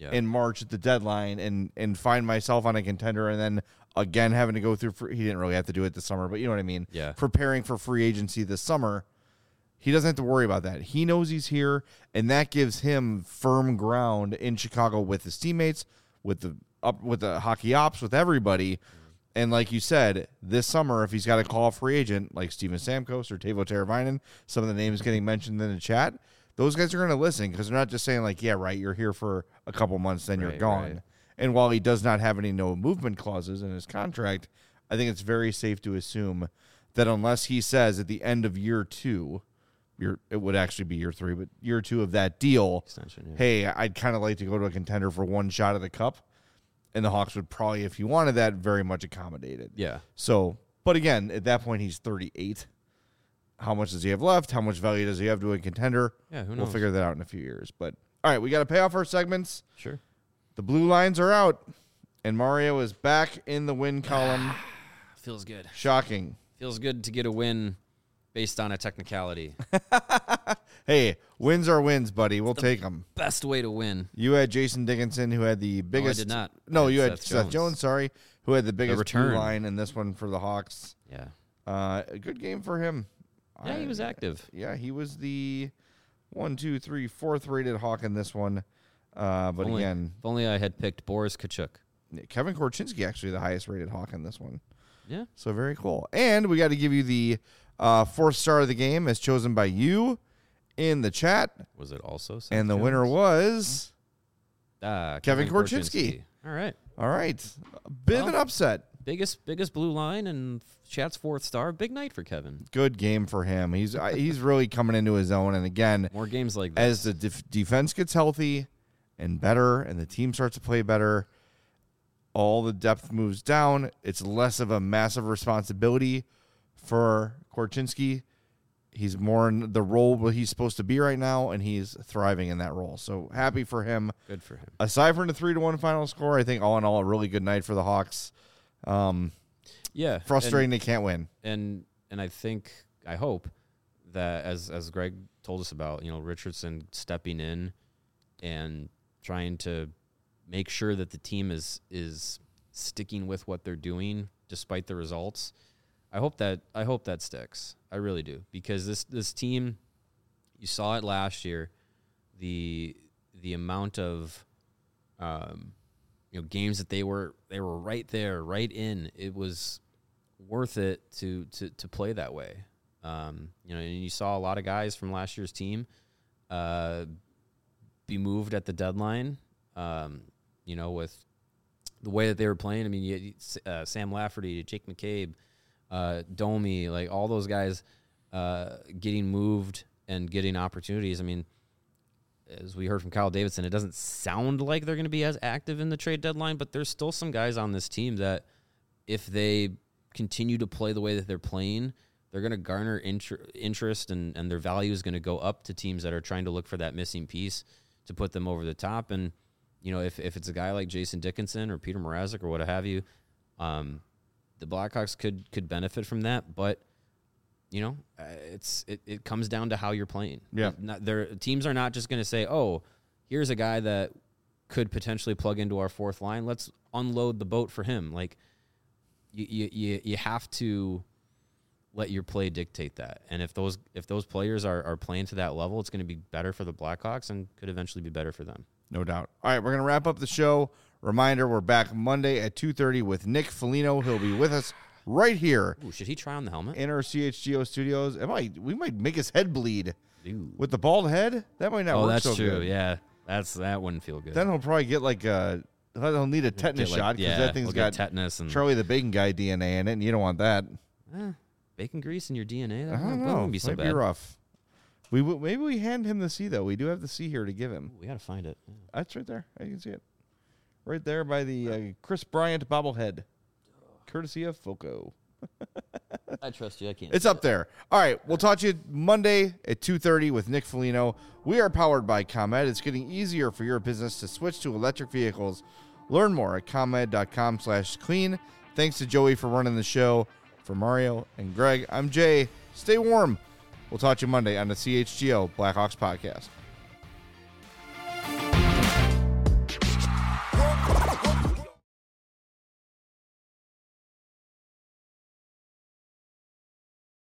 Yeah. in March at the deadline and and find myself on a contender and then again having to go through free, he didn't really have to do it this summer, but you know what I mean? Yeah. Preparing for free agency this summer, he doesn't have to worry about that. He knows he's here, and that gives him firm ground in Chicago with his teammates, with the up with the hockey ops, with everybody. And like you said, this summer, if he's got to call a free agent like Steven Stamkos or Teuvo Teravainen, some of the names getting mentioned in the chat, those guys are going to listen because they're not just saying like, yeah, right, you're here for a couple months, then Right, you're gone. right. And while he does not have any no movement clauses in his contract, I think it's very safe to assume that unless he says at the end of year two, year, it would actually be year three, but year two of that deal, Extension, yeah. hey, I'd kind of like to go to a contender for one shot at the cup. And the Hawks would probably, if he wanted that, very much accommodate it. Yeah. So, but again, at that point, he's thirty-eight. How much does he have left? How much value does he have to a contender? Yeah, who We'll knows? figure that out in a few years. But, all right, we got to pay off our segments. Sure. The blue lines are out, and Mario is back in the win column. Feels good. Shocking. Feels good to get a win based on a technicality. Hey, wins are wins, buddy. We'll take them. Best way to win. You had Jason Dickinson, who had the biggest. did not. No, I had you had Seth Seth Jones. Jones. Sorry, who had the biggest blue return. line in this one for the Hawks. Yeah. Uh, a good game for him. Yeah, he I- was active. Yeah, he was the one, two, three, fourth rated Hawk in this one. Uh, but If only- again, if only I had picked Boris Kachuk. Kevin Korchinski actually the highest rated Hawk in this one. Yeah. So very cool. And we got to give you the uh, fourth star of the game as chosen by you in the chat. Was it also Seth And the Jones? winner was Ah, Kevin Korchinski. All right. All right. A bit of Well, an upset. Biggest biggest blue line and chat's fourth star. Big night for Kevin. Good game for him. He's I- he's really coming into his own. And again, More games like this. as the def- defense gets healthy and better and the team starts to play better, all the depth moves down. It's less of a massive responsibility for Korchinski. He's more in the role where he's supposed to be right now, and he's thriving in that role. So happy for him. Good for him. Aside from the three to one final score, I think all in all a really good night for the Hawks. Um, Yeah. frustrating and- they can't win. And and I think I hope that as as Greg told us about, you know, Richardson stepping in and trying to make sure that the team is is sticking with what they're doing despite the results. I hope that I hope that sticks. I really do, because this this team, you saw it last year, the the amount of um, you know, games that they were they were right there, right in. It was worth it to to to play that way. Um, you know, and you saw a lot of guys from last year's team uh, be moved at the deadline. Um, you know, with the way that they were playing. I mean, you had, uh, Sam Lafferty, Jake McCabe, uh, Domi, like all those guys uh, getting moved and getting opportunities. I mean, as we heard from Kyle Davidson, it doesn't sound like they're going to be as active in the trade deadline, but there's still some guys on this team that if they continue to play the way that they're playing, they're going to garner inter- interest and, and their value is going to go up to teams that are trying to look for that missing piece to put them over the top. And, you know, if, if it's a guy like Jason Dickinson or Peter Mrazek or what have you, um, the Blackhawks could could benefit from that. But, you know, uh, it's it, it comes down to how you're playing. Yeah. Not, their teams are not just going to say, oh, here's a guy that could potentially plug into our fourth line. Let's unload the boat for him. Like, you you you, you have to let your play dictate that. And if those if those players are, are playing to that level, it's going to be better for the Blackhawks and could eventually be better for them. No doubt. All right, we're going to wrap up the show. Reminder, we're back Monday at two thirty with Nick Foligno. He'll be with us right here. Ooh, should he try on the helmet? In our C H G O studios. It might, we might make his head bleed. Ooh. With the bald head? That might not oh, work that's so true. good. Yeah, that's that wouldn't feel good. Then he'll probably get like a, he'll need a tetanus Get, like- shot because yeah, that thing's he'll got get tetanus and- Charlie the Bacon Guy D N A in it, and you don't want that. Eh, bacon grease in your D N A? That I don't wouldn't- that know. wouldn't be so might bad. be rough. We w- Maybe we hand him the C, though. We do have the C here to give him. We got to find it. Yeah. That's right there. You can see it. Right there by the uh, Chris Bryant bobblehead. Courtesy of Foco. I trust you. I can't. It's up there. All right. We'll talk to you Monday at two thirty with Nick Foligno. We are powered by ComEd. It's getting easier for your business to switch to electric vehicles. Learn more at ComEd.com slash clean. Thanks to Joey for running the show. For Mario and Greg, I'm Jay. Stay warm. We'll talk to you Monday on the C H G O Blackhawks podcast.